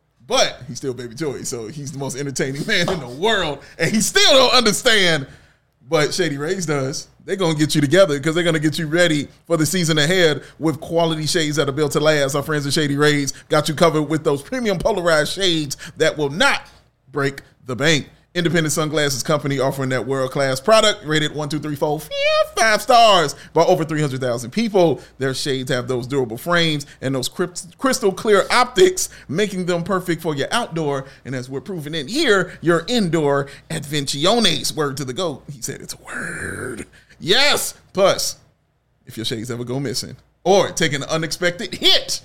But he's still Baby Joey, so he's the most entertaining man in the world, and he still don't understand. But Shady Rays does. They're going to get you together because they're going to get you ready for the season ahead with quality shades that are built to last. Our friends at Shady Rays got you covered with those premium polarized shades that will not break the bank. Independent sunglasses company offering that world-class product, rated one, two, three, four, five stars by over three hundred thousand people. Their shades have those durable frames and those crystal clear optics, making them perfect for your outdoor, and as we're proving in here, your indoor adventiones. Word to the GOAT. He said it's a word. Yes. Plus, if your shades ever go missing or take an unexpected hit,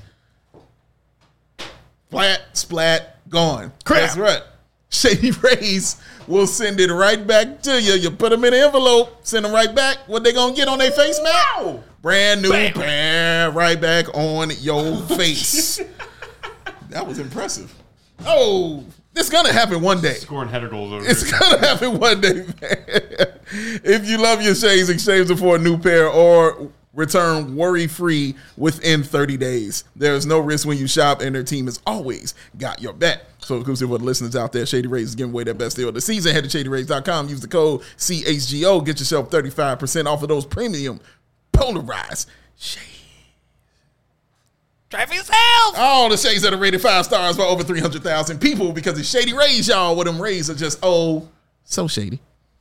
flat, splat, gone. Crap. That's right. Shady Rays will send it right back to you. You put them in an envelope, send them right back. What they gonna get on their face, man? Wow. Brand new Bam. pair right back on your face. That was impressive. Oh, this is gonna happen one day. Scoring header goals over It's here. gonna happen one day, man. If you love your shades, exchange them for a new pair or return worry-free within thirty days. There's no risk when you shop, and their team has always got your back. So exclusive for the listeners out there, Shady Rays is giving away their best deal of the season. Head to shady rays dot com. Use the code C H G O. Get yourself thirty-five percent off of those premium polarized shades. Try for yourself. All the shades that are rated five stars by over three hundred thousand people because it's Shady Rays, y'all, where them rays are just oh So shady.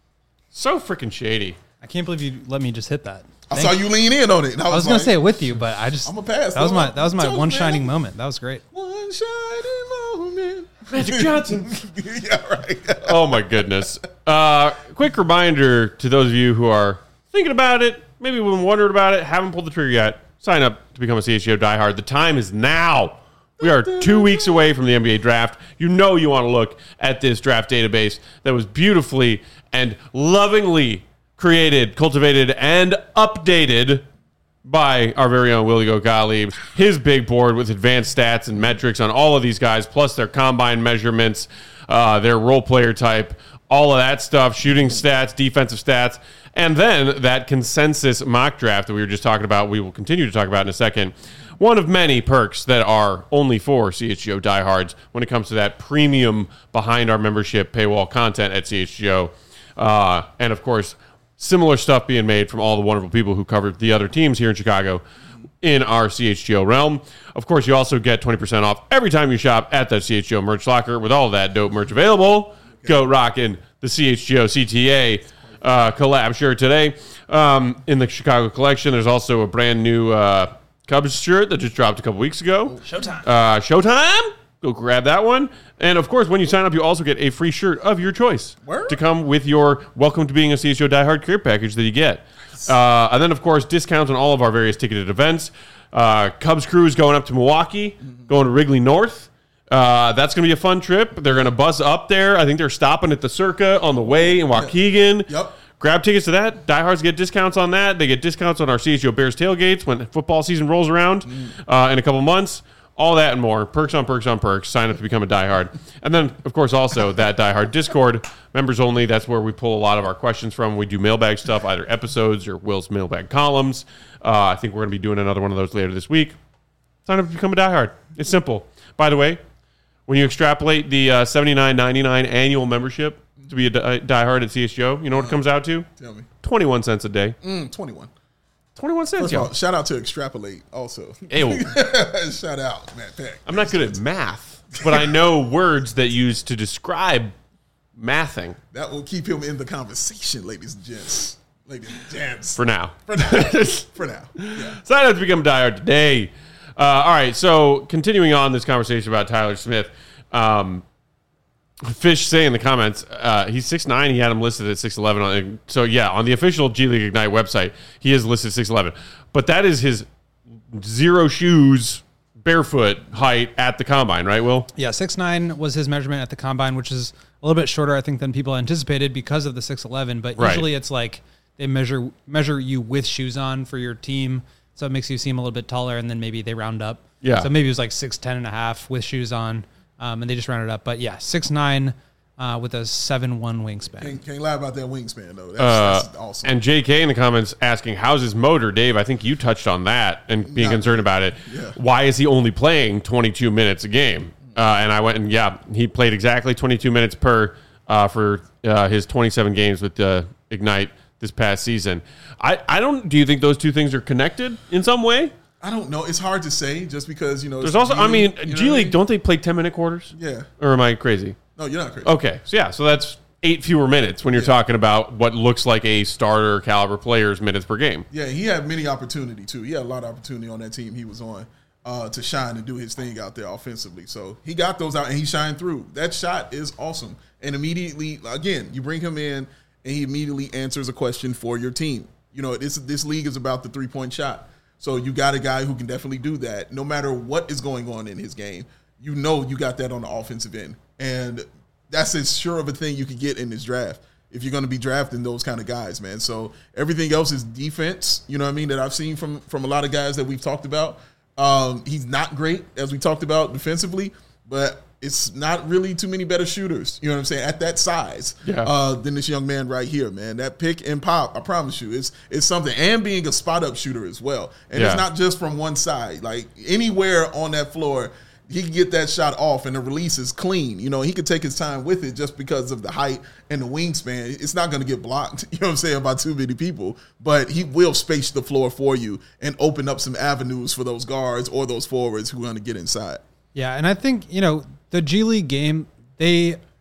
So freaking shady. I can't believe you let me just hit that. I Thank saw you lean in on it. And I was, I was like, gonna say it with you, but I just I'm gonna pass. That was though. my that was my Told one you, shining man. moment. That was great. One shining moment. Magic Johnson. Yeah, right. Oh my goodness. Uh, quick reminder to those of you who are thinking about it, maybe been wondering about it, haven't pulled the trigger yet. Sign up to become a C H G O diehard. The time is now. We are two weeks away from the N B A draft. You know you want to look at this draft database that was beautifully and lovingly created, cultivated, and updated by our very own Willie Gottlieb. His big board with advanced stats and metrics on all of these guys, plus their combine measurements, uh, their role player type, all of that stuff, shooting stats, defensive stats, and then that consensus mock draft that we were just talking about, we will continue to talk about in a second. One of many perks that are only for C H G O diehards when it comes to that premium behind our membership paywall content at C H G O. Uh, and, of course, similar stuff being made from all the wonderful people who covered the other teams here in Chicago in our C H G O realm. Of course, you also get twenty percent off every time you shop at the C H G O merch locker with all of that dope merch available. Go rocking the C H G O C T A uh, collab shirt today. Um, in the Chicago collection, there's also a brand new uh, Cubs shirt that just dropped a couple weeks ago. Showtime. Uh, Showtime. Go grab that one. And, of course, when you sign up, you also get a free shirt of your choice Word? to come with your Welcome to Being a C H G O diehard care package that you get. Uh, and then, of course, discounts on all of our various ticketed events. Uh, Cubs Cruise going up to Milwaukee, going to Wrigley North. Uh, that's going to be a fun trip. They're going to buzz up there. I think they're stopping at the Circa on the way in Waukegan. Yep. Grab tickets to that. Diehards get discounts on that. They get discounts on our C H G O Bears tailgates when football season rolls around mm. uh, in a couple months. All that and more. Perks on perks on perks. Sign up to become a diehard. And then, of course, also that diehard Discord. Members only. That's where we pull a lot of our questions from. We do mailbag stuff, either episodes or Will's mailbag columns. Uh, I think we're going to be doing another one of those later this week. Sign up to become a diehard. It's simple. By the way, when you extrapolate the uh, seventy-nine ninety-nine annual membership to be a di- diehard at C H G O, you know what it comes out to? Tell me. twenty-one cents a day. Mm, twenty-one. twenty-one cents, First of y'all. all, shout out to Extrapolate also. Ew. Shout out, Matt Peck. I'm not good at math, but I know words that use to describe mathing. That will keep him in the conversation, ladies and gents. Ladies and gents. For now. For now. For now. Yeah. Sign up to become a diehard today. Uh, all right, so continuing on this conversation about Tyler Smith, um, Fish say in the comments, uh, he's six nine. He had him listed at six eleven. On, so, yeah, on the official G League Ignite website, he is listed six eleven. But that is his zero shoes, barefoot height at the combine, right, Will? Yeah, six nine was his measurement at the combine, which is a little bit shorter, I think, than people anticipated because of the six eleven. But Right. usually it's like they measure measure you with shoes on for your team. So it makes you seem a little bit taller, and then maybe they round up. Yeah. So maybe it was like six ten and a half with shoes on. Um, and they just rounded up. But yeah, six nine uh, with a seven one wingspan. Can't, can't lie about that wingspan, though. That's, Uh, that's awesome. And J K in the comments asking, how's his motor? Dave, I think you touched on that and being Not concerned good. about it. Yeah. Why is he only playing twenty-two minutes a game? Uh, and I went and, yeah, he played exactly twenty-two minutes per uh, for uh, his twenty-seven games with uh, Ignite this past season. I, I don't, do you think those two things are connected in some way? I don't know. It's hard to say just because, you know. There's it's also, G I mean, League, you know G what I League, mean? don't they play ten minute quarters? Yeah. Or am I crazy? No, you're not crazy. Okay. So, yeah, so that's eight fewer minutes when you're Yeah. talking about what looks like a starter caliber player's minutes per game. Yeah, he had many opportunity, too. He had a lot of opportunity on that team he was on uh, to shine and do his thing out there offensively. So he got those out, and he shined through. That shot is awesome. And immediately, again, you bring him in, and he immediately answers a question for your team. You know, this this league is about the three-point shot. So you got a guy who can definitely do that. No matter what is going on in his game, you know you got that on the offensive end. And that's as sure of a thing you could get in this draft if you're going to be drafting those kind of guys, man. So everything else is defense, you know what I mean, that I've seen from, from a lot of guys that we've talked about. Um, he's not great, as we talked about, defensively, but it's not really too many better shooters, you know what I'm saying, at that size Yeah. uh, than this young man right here, man. That pick and pop, I promise you, it's, it's something. And being a spot-up shooter as well. And Yeah. it's not just from one side. Like, anywhere on that floor, he can get that shot off and the release is clean. You know, he could take his time with it just because of the height and the wingspan. It's not going to get blocked, you know what I'm saying, by too many people. But he will space the floor for you and open up some avenues for those guards or those forwards who are going to get inside. Yeah, and I think, you know, the G League game, they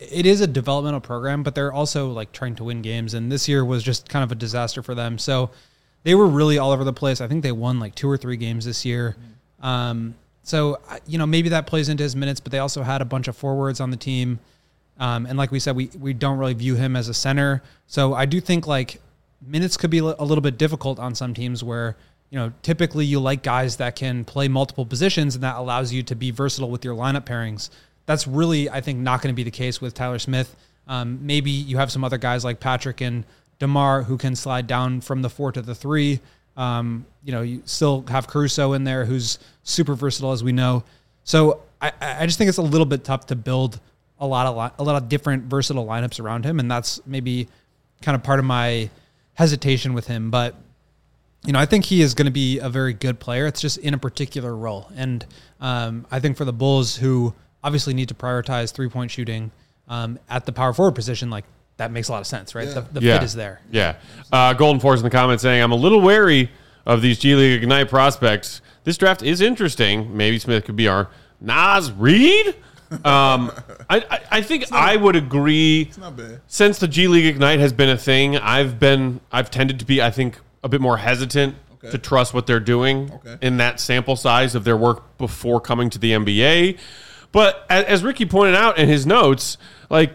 it is a developmental program, but they're also like trying to win games. And this year was just kind of a disaster for them. So they were really all over the place. I think they won like two or three games this year. Um, so, you know, maybe that plays into his minutes, but they also had a bunch of forwards on the team. Um, and like we said, we, we don't really view him as a center. So I do think like minutes could be a little bit difficult on some teams where, you know, typically you like guys that can play multiple positions and that allows you to be versatile with your lineup pairings. That's really, I think, not going to be the case with Tyler Smith. Um, maybe you have some other guys like Patrick and DeMar who can slide down from the four to the three. Um, you know, you still have Caruso in there who's super versatile, as we know. So I, I just think it's a little bit tough to build a lot of a lot of different versatile lineups around him, and that's maybe kind of part of my hesitation with him. But you know, I think he is going to be a very good player. It's just in a particular role, and um, I think for the Bulls, who obviously need to prioritize three point shooting um, at the power forward position, like that makes a lot of sense, right? Yeah. The, the Yeah. fit is there. Yeah. Uh, Golden Force in the comments saying, I'm a little wary of these G League Ignite prospects. This draft is interesting. Maybe Smith could be our Nas Reed. Um, I, I, I think I would agree. It's not bad. Since the G League Ignite has been a thing, I've been, I've tended to be, I think, a bit more hesitant Okay. to trust what they're doing Okay. in that sample size of their work before coming to the N B A. But as, as Ricky pointed out in his notes, like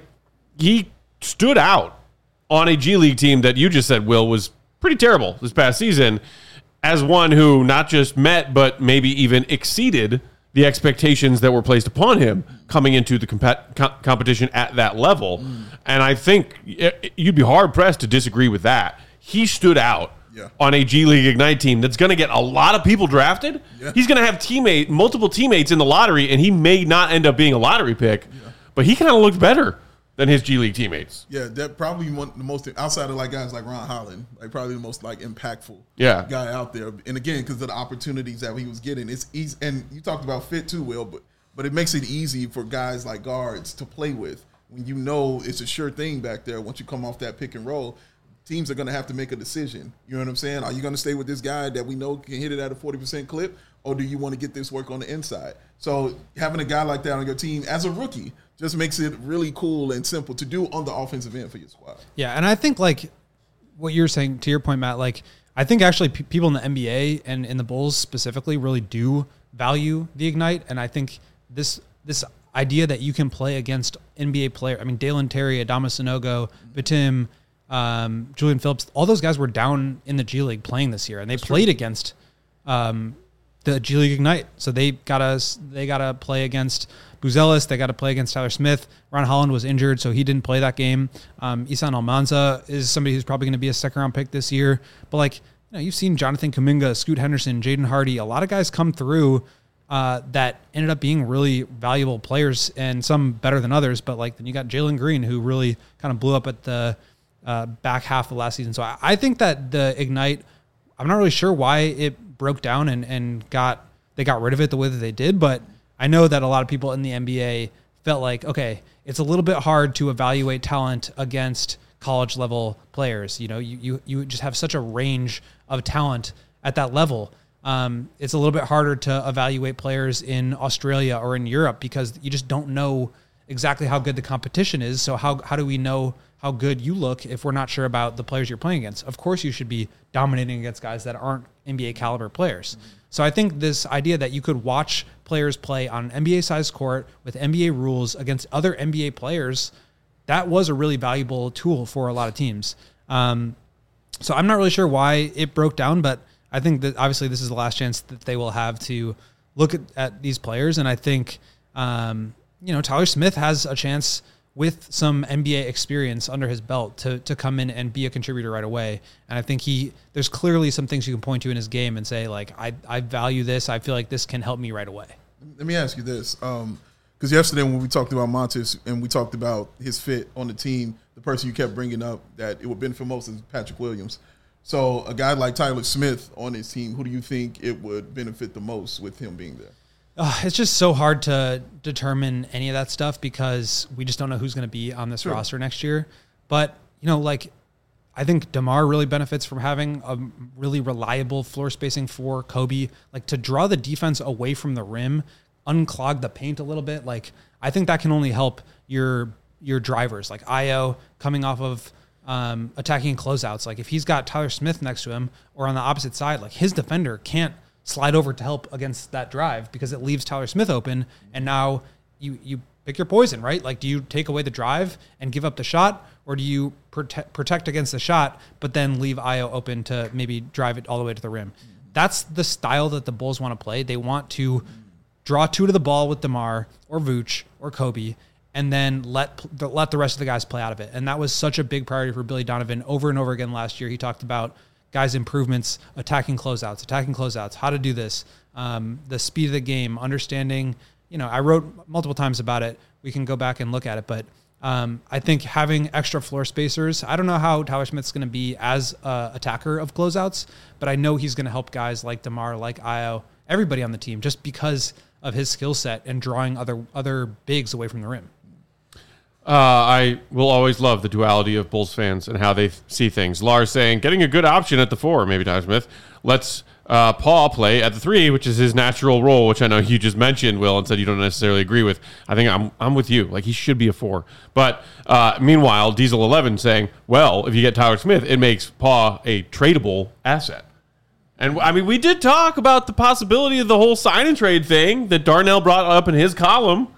he stood out on a G League team that you just said, Will, was pretty terrible this past season as one who not just met, but maybe even exceeded the expectations that were placed upon him coming into the comp- com- competition at that level. Mm. And I think it, you'd be hard pressed to disagree with that. He stood out Yeah. on a G League Ignite team that's going to get a lot of people drafted. Yeah. He's going to have teammate, multiple teammates in the lottery, and he may not end up being a lottery pick, yeah. but he kind of looked better than his G League teammates. Yeah, that probably one the most outside of like guys like Ron Holland, like probably the most like impactful Yeah. guy out there. And again, because of the opportunities that he was getting, it's easy. And you talked about fit too, Will, but but it makes it easy for guys like guards to play with when you know it's a sure thing back there. Once you come off that pick and roll, teams are going to have to make a decision. You know what I'm saying? Are you going to stay with this guy that we know can hit it at a forty percent clip, or do you want to get this work on the inside? So having a guy like that on your team as a rookie just makes it really cool and simple to do on the offensive end for your squad. Yeah, and I think like what you're saying, to your point, Matt, like I think actually p- people in the N B A and in the Bulls specifically really do value the Ignite, and I think this this idea that you can play against N B A players. I mean, Dalen Terry, Adama Sanogo, Batum, um, Julian Phillips, all those guys were down in the G League playing this year, and they That's played true. against um, the G League Ignite. So they gotta they gotta play against Buzelis. They got to play against Tyler Smith. Ron Holland was injured, so he didn't play that game. Um, Isan Almanza is somebody who's probably going to be a second round pick this year. But like, you know, you've seen Jonathan Kuminga, Scoot Henderson, Jaden Hardy, a lot of guys come through uh, that ended up being really valuable players, and some better than others. But like, then you got Jalen Green, who really kind of blew up at the uh, back half of last season. So I, I think that the Ignite, I'm not really sure why it broke down and, and got they got rid of it the way that they did, but I know that a lot of people in the N B A felt like, okay, it's a little bit hard to evaluate talent against college level players. You know, you you, you just have such a range of talent at that level. Um, it's a little bit harder to evaluate players in Australia or in Europe because you just don't know exactly how good the competition is. So how how do we know how good you look if we're not sure about the players you're playing against? Of course, you should be dominating against guys that aren't N B A caliber players. Mm-hmm. So I think this idea that you could watch players play on an N B A-sized court with N B A rules against other N B A players, that was a really valuable tool for a lot of teams. Um, so I'm not really sure why it broke down, but I think that obviously this is the last chance that they will have to look at, at these players. And I think, um, you know, Tyler Smith has a chance with some N B A experience under his belt to to come in and be a contributor right away. And I think he there's clearly some things you can point to in his game and say, like, I, I value this. I feel like this can help me right away. Let me ask you this. Um, because yesterday when we talked about Montes and we talked about his fit on the team, the person you kept bringing up that it would benefit most is Patrick Williams. So a guy like Tyler Smith on his team, who do you think it would benefit the most with him being there? Uh, it's just so hard to determine any of that stuff because we just don't know who's going to be on this sure. roster next year. But, you know, like, I think DeMar really benefits from having a really reliable floor spacing for Kobe, like to draw the defense away from the rim, unclog the paint a little bit. Like, I think that can only help your your drivers like Ayo coming off of um, attacking closeouts. Like if he's got Tyler Smith next to him or on the opposite side, like his defender can't slide over to help against that drive because it leaves Tyler Smith open. And now you, you pick your poison, right? Like, do you take away the drive and give up the shot, or do you protect, protect against the shot, but then leave Ayo open to maybe drive it all the way to the rim? That's the style that the Bulls want to play. They want to draw two to the ball with DeMar or Vooch or Kobe, and then let let the rest of the guys play out of it. And that was such a big priority for Billy Donovan over and over again last year. He talked about guys' improvements, attacking closeouts, attacking closeouts, how to do this, um, the speed of the game, understanding, you know, I wrote multiple times about it. We can go back and look at it, but um, I think having extra floor spacers, I don't know how Tyler Smith's going to be as a attacker of closeouts, but I know he's going to help guys like DeMar, like Ayo, everybody on the team, just because of his skill set and drawing other other bigs away from the rim. Uh, I will always love the duality of Bulls fans and how they th- see things. Lars saying, getting a good option at the four, maybe Tyler Smith. Let's uh, Paul play at the three, which is his natural role, which I know you just mentioned, Will, and said you don't necessarily agree with. I think I'm I'm with you. Like, he should be a four. But uh, meanwhile, Diesel eleven saying, well, if you get Tyler Smith, it makes Paul a tradable asset. And, I mean, we did talk about the possibility of the whole sign and trade thing that Darnell brought up in his column.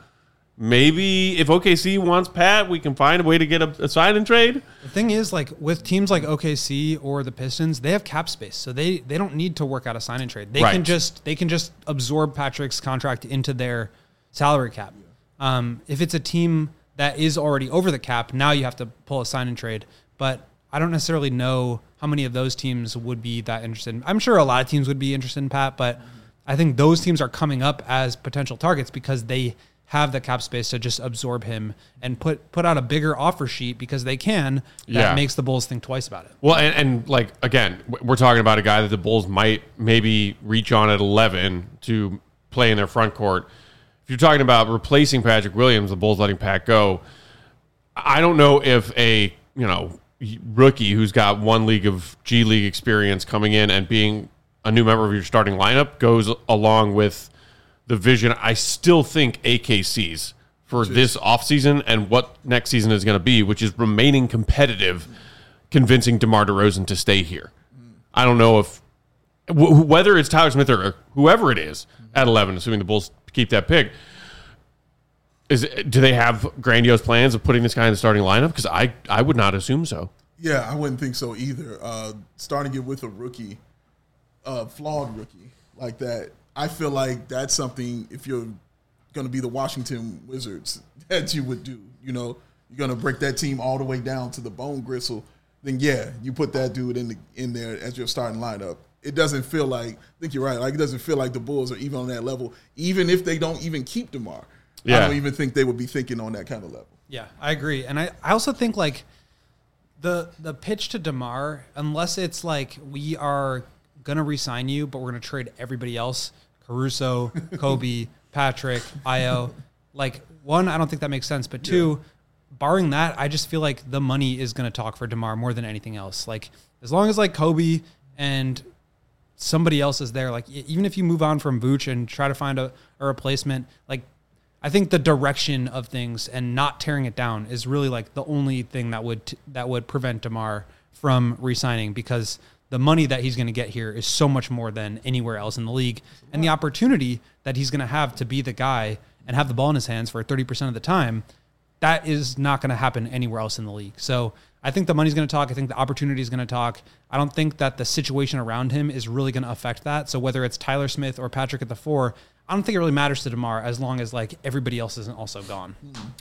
Maybe if O K C wants Pat, we can find a way to get a, a sign and trade. The thing is, like with teams like O K C or the Pistons, they have cap space, so they, they don't need to work out a sign and trade. They right. can just they can just absorb Patrick's contract into their salary cap. Um, if it's a team that is already over the cap, now you have to pull a sign and trade. But I don't necessarily know how many of those teams would be that interested in. I'm sure a lot of teams would be interested in Pat, but I think those teams are coming up as potential targets because they have the cap space to just absorb him and put put out a bigger offer sheet because they can. That yeah. makes the Bulls think twice about it. Well, and, and like, again, we're talking about a guy that the Bulls might maybe reach on at eleven to play in their front court. If you're talking about replacing Patrick Williams, the Bulls letting Pat go, I don't know if a, you know, rookie who's got one league of G League experience coming in and being a new member of your starting lineup goes along with the vision I still think A K C's for Jeez. this offseason and what next season is going to be, which is remaining competitive, convincing DeMar DeRozan to stay here. Mm. I don't know if w- whether it's Tyler Smith or whoever it is mm. at eleven, assuming the Bulls keep that pick. Is it, do they have grandiose plans of putting this guy in the starting lineup? Because I, I would not assume so. Yeah, I wouldn't think so either. Uh, starting it with a rookie, uh, flawed rookie like that, I feel like that's something, if you're going to be the Washington Wizards, that you would do. You know, you're going to break that team all the way down to the bone gristle. Then, yeah, you put that dude in the, in there as your starting lineup. It doesn't feel like, I think you're right, like it doesn't feel like the Bulls are even on that level, even if they don't even keep DeMar. Yeah. I don't even think they would be thinking on that kind of level. Yeah, I agree. And I, I also think, like, the the pitch to DeMar, unless it's like we are – going to re-sign you, but we're going to trade everybody else, Caruso, Kobe, Patrick, Ayo. Like, one, I don't think that makes sense, but two, yeah. barring that, I just feel like the money is going to talk for DeMar more than anything else. Like, as long as, like, Kobe and somebody else is there, like, even if you move on from Vooch and try to find a, a replacement, like, I think the direction of things and not tearing it down is really, like, the only thing that would t- that would prevent DeMar from re-signing, because the money that he's going to get here is so much more than anywhere else in the league. And the opportunity that he's going to have to be the guy and have the ball in his hands for thirty percent of the time, that is not going to happen anywhere else in the league. So I think the money's going to talk. I think the opportunity is going to talk. I don't think that the situation around him is really going to affect that. So whether it's Tyler Smith or Patrick at the four, I don't think it really matters to DeMar as long as, like, everybody else isn't also gone.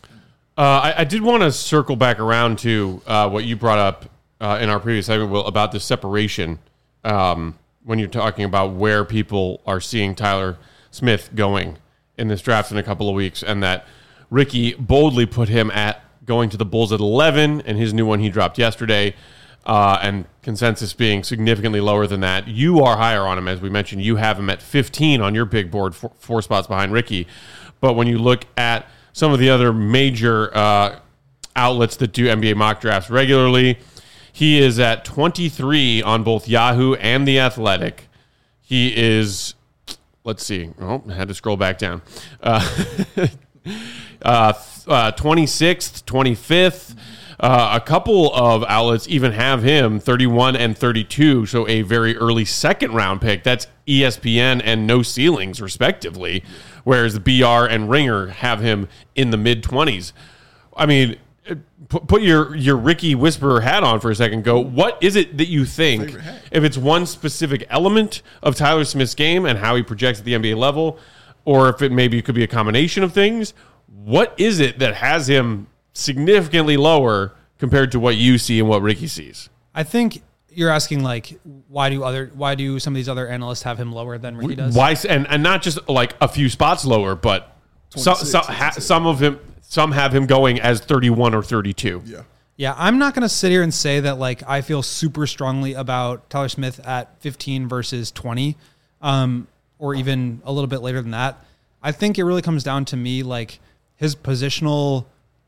Uh, I, I did want to circle back around to uh, what you brought up Uh, in our previous segment, Will, about the separation um, when you're talking about where people are seeing Tyler Smith going in this draft in a couple of weeks, and that Ricky boldly put him at going to the Bulls at eleven, and his new one he dropped yesterday, uh, and consensus being significantly lower than that. You are higher on him, as we mentioned. You have him at fifteen on your big board, four, four spots behind Ricky. But when you look at some of the other major uh, outlets that do N B A mock drafts regularly, he is at twenty-three on both Yahoo and The Athletic. He is, let's see. Oh, I had to scroll back down. Uh, uh, uh, twenty-sixth, twenty-fifth. Uh, a couple of outlets even have him thirty-one and thirty-two, so a very early second round pick. That's E S P N and No Ceilings, respectively, whereas the B R and Ringer have him in the mid-twenties. I mean, put, put your, your Ricky Whisperer hat on for a second. Go, what is it that you think, if it's one specific element of Tyler Smith's game and how he projects at the N B A level, or if it maybe could be a combination of things, what is it that has him significantly lower compared to what you see and what Ricky sees? I think you're asking, like, why do other why do some of these other analysts have him lower than Ricky does? Why and and not just like a few spots lower, but some some, ha, some of him some have him going as thirty-one or thirty-two. Yeah. Yeah, I'm not going to sit here and say that, like, I feel super strongly about Tyler Smith at fifteen versus twenty, um, or even a little bit later than that. I think it really comes down to me, like, his positional.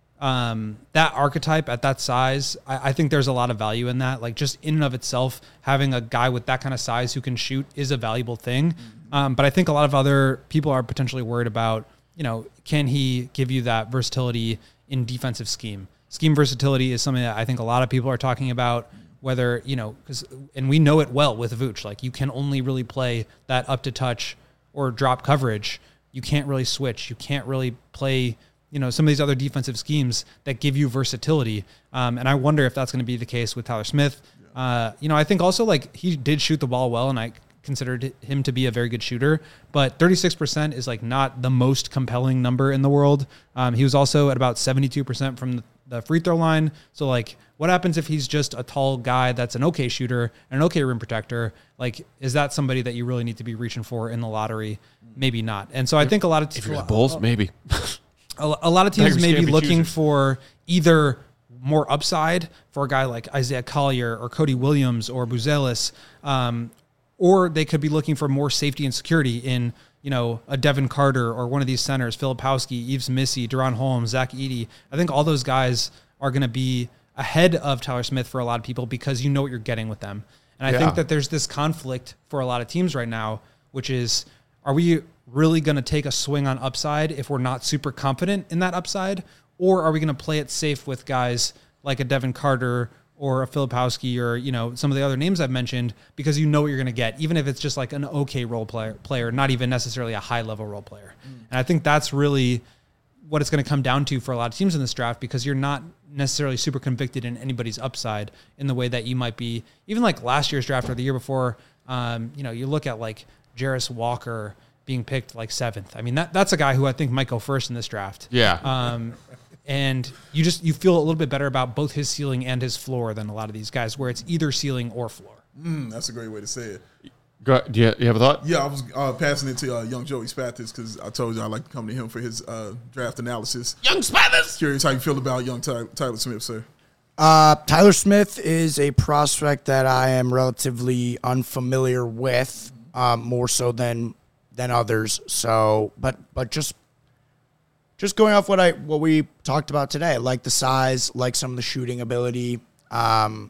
Um, that archetype at that size, I, I think there's a lot of value in that. Like, just in and of itself, having a guy with that kind of size who can shoot is a valuable thing. Um, but I think a lot of other people are potentially worried about, you know, can he give you that versatility in defensive scheme? Scheme versatility is something that I think a lot of people are talking about, whether, you know, because, and we know it well with Vooch, like, you can only really play that up to touch or drop coverage. You can't really switch. You can't really play, you know, some of these other defensive schemes that give you versatility. Um, and I wonder if that's going to be the case with Tyler Smith. Uh, you know, I think also, like, he did shoot the ball well, and I considered him to be a very good shooter, but thirty-six percent is, like, not the most compelling number in the world. Um, he was also at about seventy-two percent from the, the free throw line. So, like, what happens if he's just a tall guy that's an okay shooter and an okay rim protector? Like, is that somebody that you really need to be reaching for in the lottery? Maybe not. And so I think a lot of t- if you're the Bulls, maybe. A, a lot of teams Tigers may be can't be looking choosers. for either more upside for a guy like Isaiah Collier or Cody Williams or Buzelis, um, or they could be looking for more safety and security in, you know, a Devin Carter or one of these centers, Filipowski, Yves Missy, Deron Holmes, Zach Edey. I think all those guys are going to be ahead of Tyler Smith for a lot of people because you know what you're getting with them. And I Yeah. think that there's this conflict for a lot of teams right now, which is, are we really going to take a swing on upside if we're not super confident in that upside? Or are we going to play it safe with guys like a Devin Carter or a Filipowski or, you know, some of the other names I've mentioned, because you know what you're going to get, even if it's just like an okay role player, player, not even necessarily a high level role player. Mm. And I think that's really what it's going to come down to for a lot of teams in this draft, because you're not necessarily super convicted in anybody's upside in the way that you might be, even like last year's draft or the year before. Um, you know, you look at like Jarris Walker being picked like seventh. I mean, that that's a guy who I think might go first in this draft. Yeah. Um, and you just, you feel a little bit better about both his ceiling and his floor than a lot of these guys where it's either ceiling or floor. Mm, that's a great way to say it. Go, do you, you have a thought? Yeah, I was uh, passing it to uh, young Joey Spathis because I told you I like to come to him for his uh, draft analysis. Young Spathis! Curious how you feel about young Ty- Tyler Smith, sir. Uh, Tyler Smith is a prospect that I am relatively unfamiliar with, um, more so than than others. So, but but just just going off what I what we talked about today, like the size, like some of the shooting ability, um,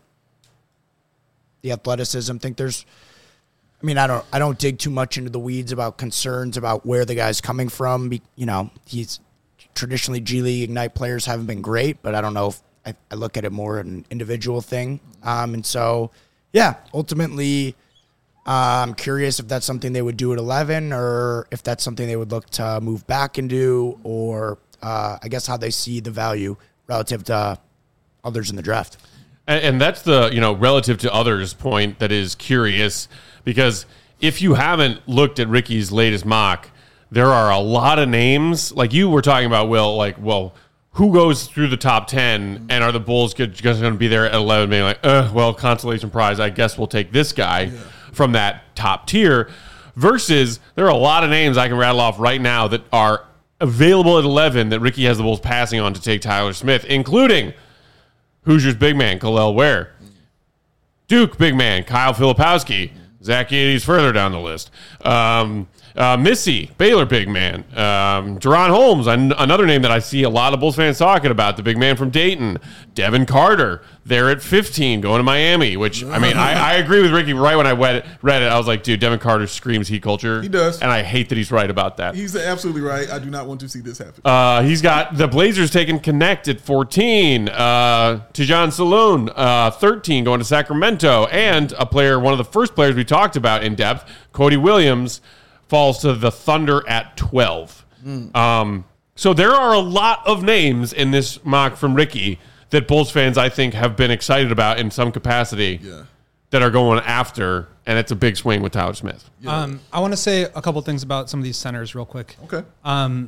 the athleticism. I think there's. I mean, I don't I don't dig too much into the weeds about concerns about where the guy's coming from. Be, you know, he's traditionally G League Ignite players haven't been great, but I don't know if I, I look at it more as an individual thing. Um, and so, yeah, ultimately, uh, I'm curious if that's something they would do at eleven or if that's something they would look to move back and do, or uh, I guess how they see the value relative to others in the draft. And, and that's the, you know, relative to others point that is curious, because if you haven't looked at Ricky's latest mock, there are a lot of names, like you were talking about, Will, like, well, who goes through the top ten, and are the Bulls just going to be there at eleven, being like, uh, well, consolation prize, I guess we'll take this guy yeah. from that top tier, versus there are a lot of names I can rattle off right now that are available at eleven that Ricky has the Bulls passing on to take Tyler Smith, including Hoosiers big man, Kel'el Ware, Duke big man, Kyle Filipowski, Zach Edey's further down the list. Um, Uh, Missy, Baylor big man. Um, Deron Holmes, an- another name that I see a lot of Bulls fans talking about, the big man from Dayton. Devin Carter, there at fifteen, going to Miami, which, I mean, I, I agree with Ricky right when I read it, read it. I was like, dude, Devin Carter screams Heat culture. He does. And I hate that he's right about that. He's absolutely right. I do not want to see this happen. Uh, he's got the Blazers taking Connect at fourteen. Uh, Tijan Saloon, uh, thirteen, going to Sacramento. And a player, one of the first players we talked about in depth, Cody Williams, falls to the Thunder at twelve. Mm. Um, so there are a lot of names in this mock from Ricky that Bulls fans, I think, have been excited about in some capacity yeah. that are going after, and it's a big swing with Tyler Smith. Yeah. Um, I want to say a couple things about some of these centers real quick. Okay. Um,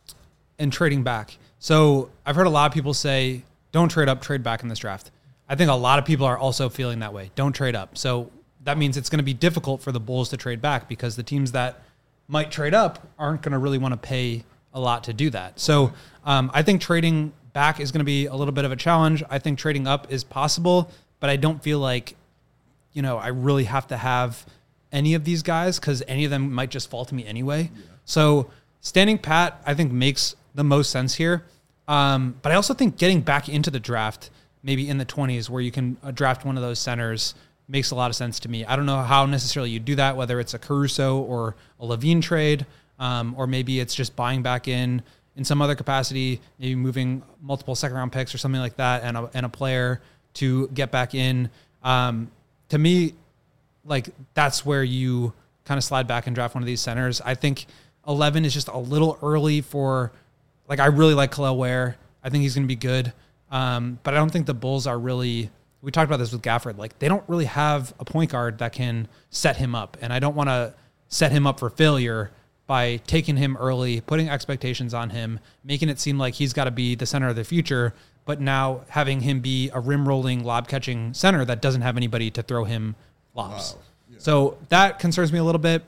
and trading back. So I've heard a lot of people say, don't trade up, trade back in this draft. I think a lot of people are also feeling that way. Don't trade up. So that means it's going to be difficult for the Bulls to trade back because the teams that might trade up aren't going to really want to pay a lot to do that. So um, I think trading back is going to be a little bit of a challenge. I think trading up is possible, but I don't feel like, you know, I really have to have any of these guys because any of them might just fall to me anyway. Yeah. So standing pat, I think makes the most sense here. Um, but I also think getting back into the draft, maybe in the twenties where you can uh, draft one of those centers, makes a lot of sense to me. I don't know how necessarily you do that, whether it's a Caruso or a Levine trade, um, or maybe it's just buying back in in some other capacity, maybe moving multiple second round picks or something like that and a, and a player to get back in. Um, to me, like that's where you kind of slide back and draft one of these centers. I think eleven is just a little early for, like, I really like Kel'el Ware. I think he's going to be good. Um, but I don't think the Bulls are really, we talked about this with Gafford, like they don't really have a point guard that can set him up. And I don't want to set him up for failure by taking him early, putting expectations on him, making it seem like he's got to be the center of the future, but now having him be a rim rolling, lob catching center that doesn't have anybody to throw him lobs. Wow. Yeah. So that concerns me a little bit.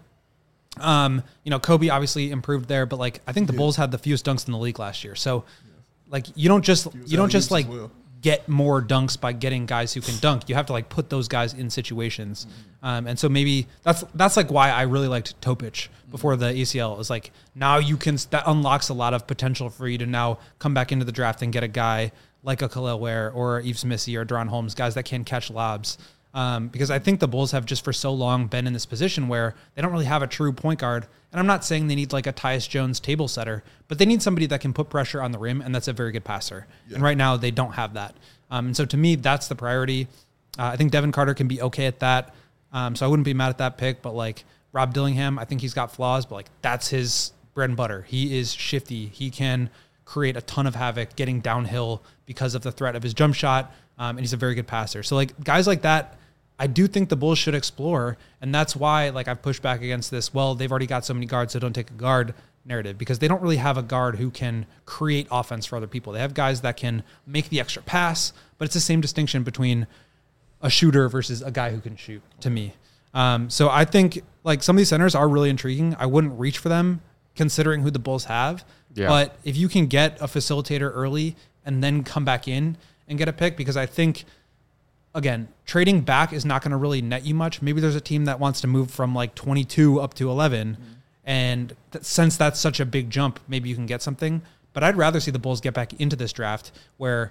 Um, you know, Kobe obviously improved there, but like I think the yeah. Bulls had the fewest dunks in the league last year. So yeah. like you don't just you don't just like well. get more dunks by getting guys who can dunk. You have to like put those guys in situations. Mm-hmm. Um, and so maybe that's that's like why I really liked Topic before the A C L. It was like now you can that unlocks a lot of potential for you to now come back into the draft and get a guy like a Kel'el Ware or Yves Missy or Deron Holmes, guys that can catch lobs. Um, because I think the Bulls have just for so long been in this position where they don't really have a true point guard. And I'm not saying they need like a Tyus Jones table setter, but they need somebody that can put pressure on the rim, and that's a very good passer. Yeah. And right now they don't have that. Um, and so to me, that's the priority. Uh, I think Devin Carter can be okay at that. Um, so I wouldn't be mad at that pick, but like Rob Dillingham, I think he's got flaws, but like that's his bread and butter. He is shifty. He can create a ton of havoc getting downhill because of the threat of his jump shot. Um, and he's a very good passer. So like guys like that, I do think the Bulls should explore, and that's why like I've pushed back against this, well, they've already got so many guards, so don't take a guard narrative, because they don't really have a guard who can create offense for other people. They have guys that can make the extra pass, but it's the same distinction between a shooter versus a guy who can shoot to me. Um, so I think like some of these centers are really intriguing. I wouldn't reach for them considering who the Bulls have, yeah. but if you can get a facilitator early and then come back in and get a pick, because I think again, trading back is not going to really net you much. Maybe there's a team that wants to move from like twenty-two up to eleven. Mm-hmm. And th- since that's such a big jump, maybe you can get something. But I'd rather see the Bulls get back into this draft where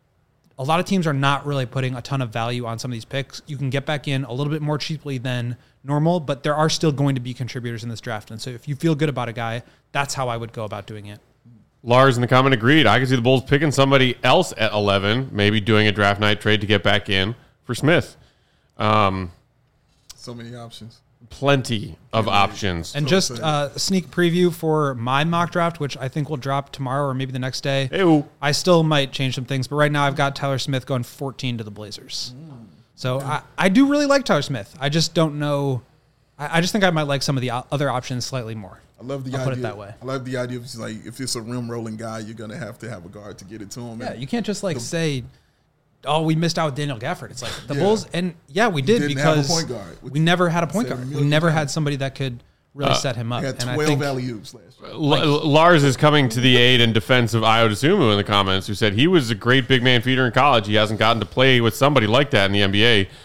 a lot of teams are not really putting a ton of value on some of these picks. You can get back in a little bit more cheaply than normal, but there are still going to be contributors in this draft. And so if you feel good about a guy, that's how I would go about doing it. Lars in the comment agreed. I could see the Bulls picking somebody else at eleven, maybe doing a draft night trade to get back in for Smith. Um, so many options. Plenty of yeah, options. And so just uh, a sneak preview for my mock draft, which I think will drop tomorrow or maybe the next day. Ew. I still might change some things, but right now I've got Tyler Smith going fourteen to the Blazers. Mm. So I, I do really like Tyler Smith. I just don't know. I, I just think I might like some of the other options slightly more. I love the I'll idea. Put it that way. I love the idea of just like if it's a rim rolling guy, you're gonna have to have a guard to get it to him. Yeah, and you can't just like the, say, "Oh, we missed out with Daniel Gafford." It's like the yeah. Bulls, and yeah, we did because have a point guard, we never had a point guard. We never had somebody that could really uh, set him up. He had and twelve I think, alley-oops last year. L- Lars is coming to the aid in defense of Ayo Dosunmu in the comments, who said he was a great big man feeder in college. He hasn't gotten to play with somebody like that in the N B A.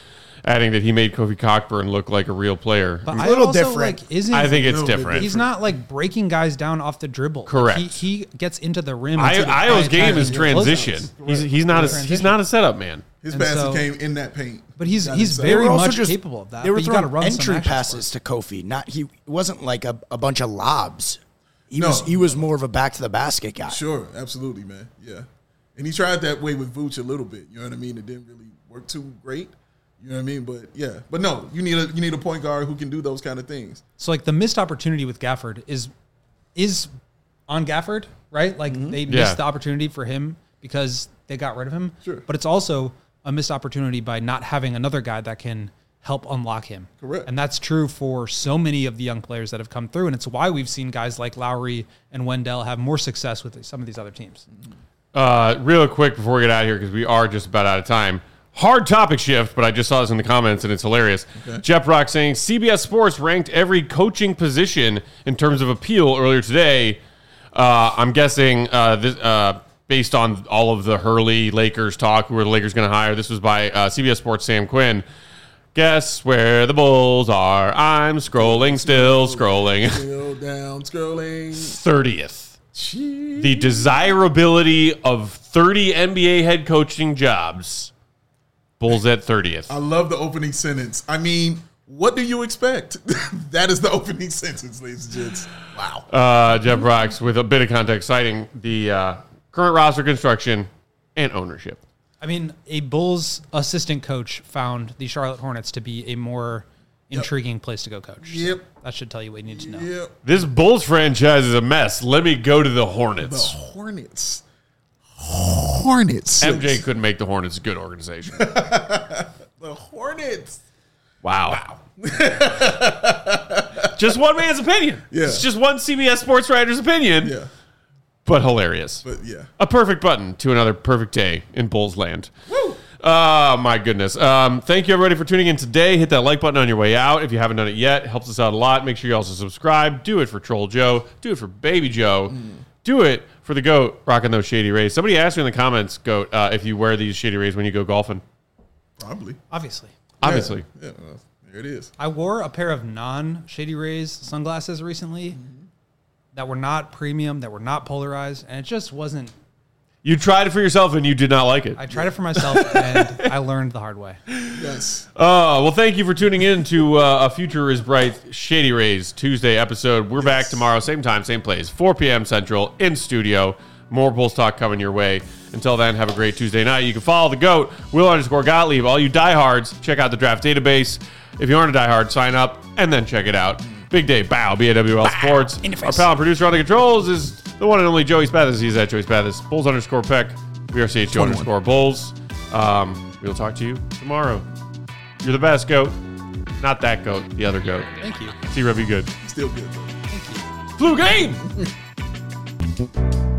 adding that he made Kofi Cockburn look like a real player. But A I little also, different. Like, isn't, I think it's little bit different. he's not like breaking guys down off the dribble. Like, Correct. he, he gets into the rim. I, into the Io's game attacking is transition. closeouts. He's he's not a, Transition. he's not a setup man. His And passes so- came in that paint. But he's Got he's inside. They very were also much just- capable of that. They were but you got to throwing run some entry action passes to Kofi. Not he. It wasn't like a, a bunch of lobs. He No. was he was more of a back to the basket guy. Sure, absolutely, man. Yeah. And he tried that way with Vooch a little bit. You know what I mean? It didn't really work too great. You know what I mean? But yeah. But no, you need a you need a point guard who can do those kind of things. So like the missed opportunity with Gafford is is on Gafford, right? Like they missed Yeah. the opportunity for him because they got rid of him. Sure. But it's also a missed opportunity by not having another guy that can help unlock him. Correct. And that's true for so many of the young players that have come through. And it's why we've seen guys like Lowry and Wendell have more success with some of these other teams. Uh, real quick before we get out of here, because we are just about out of time. Hard topic shift, but I just saw this in the comments and it's hilarious. Okay. Jeff Rock saying C B S Sports ranked every coaching position in terms of appeal earlier today. Uh, I'm guessing uh, this, uh, based on all of the Hurley Lakers talk, who are the Lakers going to hire? This was by uh, C B S Sports Sam Quinn. Guess where the Bulls are? I'm scrolling, still scrolling. Still down, scrolling. thirtieth. Jeez. The desirability of thirty N B A head coaching jobs. Bulls at thirtieth. I love the opening sentence. I mean, what do you expect? That is the opening sentence, ladies and gents. Wow. Uh, Jeff Rocks with a bit of context citing the uh, current roster construction and ownership. I mean, a Bulls assistant coach found the Charlotte Hornets to be a more intriguing place to go coach. So Yep. that should tell you what you need to know. Yep. This Bulls franchise is a mess. Let me go to the The Hornets. Hornets. Hornets. M J couldn't make the Hornets a good organization. The Hornets. Wow. Just one man's opinion. Yeah. It's just one C B S Sports writer's opinion, Yeah. but hilarious. But yeah. A perfect button to another perfect day in Bulls land. Woo. Oh, my goodness. Um, thank you, everybody, for tuning in today. Hit that like button on your way out. If you haven't done it yet, it helps us out a lot. Make sure you also subscribe. Do it for Troll Joe. Do it for Baby Joe. Mm. Do it for the GOAT rocking those Shady Rays. Somebody asked me in the comments, GOAT, uh, if you wear these Shady Rays when you go golfing. Probably. Obviously. Obviously. Yeah. Yeah, well, there it is. I wore a pair of non-Shady Rays sunglasses recently that were not premium, that were not polarized, and it just wasn't. You tried it for yourself and you did not like it. I tried it for myself, and I learned the hard way. Yes. Uh, well, thank you for tuning in to uh, A Future is Bright Shady Rays Tuesday episode. We're back tomorrow, same time, same place, four p.m. Central, in studio. More Bulls talk coming your way. Until then, have a great Tuesday night. You can follow the GOAT, Will underscore Gottlieb. All you diehards, check out the draft database. If you aren't a diehard, sign up and then check it out. Big day, bow, B A W L Sports. in the Our face. pal and producer on the controls is the one and only Joey Spathis. He's at Joey Spathis. Bulls underscore Peck. We are C H O underscore Bulls. Um, we'll talk to you tomorrow. You're the best, GOAT. Not that GOAT, the other GOAT. Thank you. See, Rev, you good. Still good, though. Thank you. Flu game!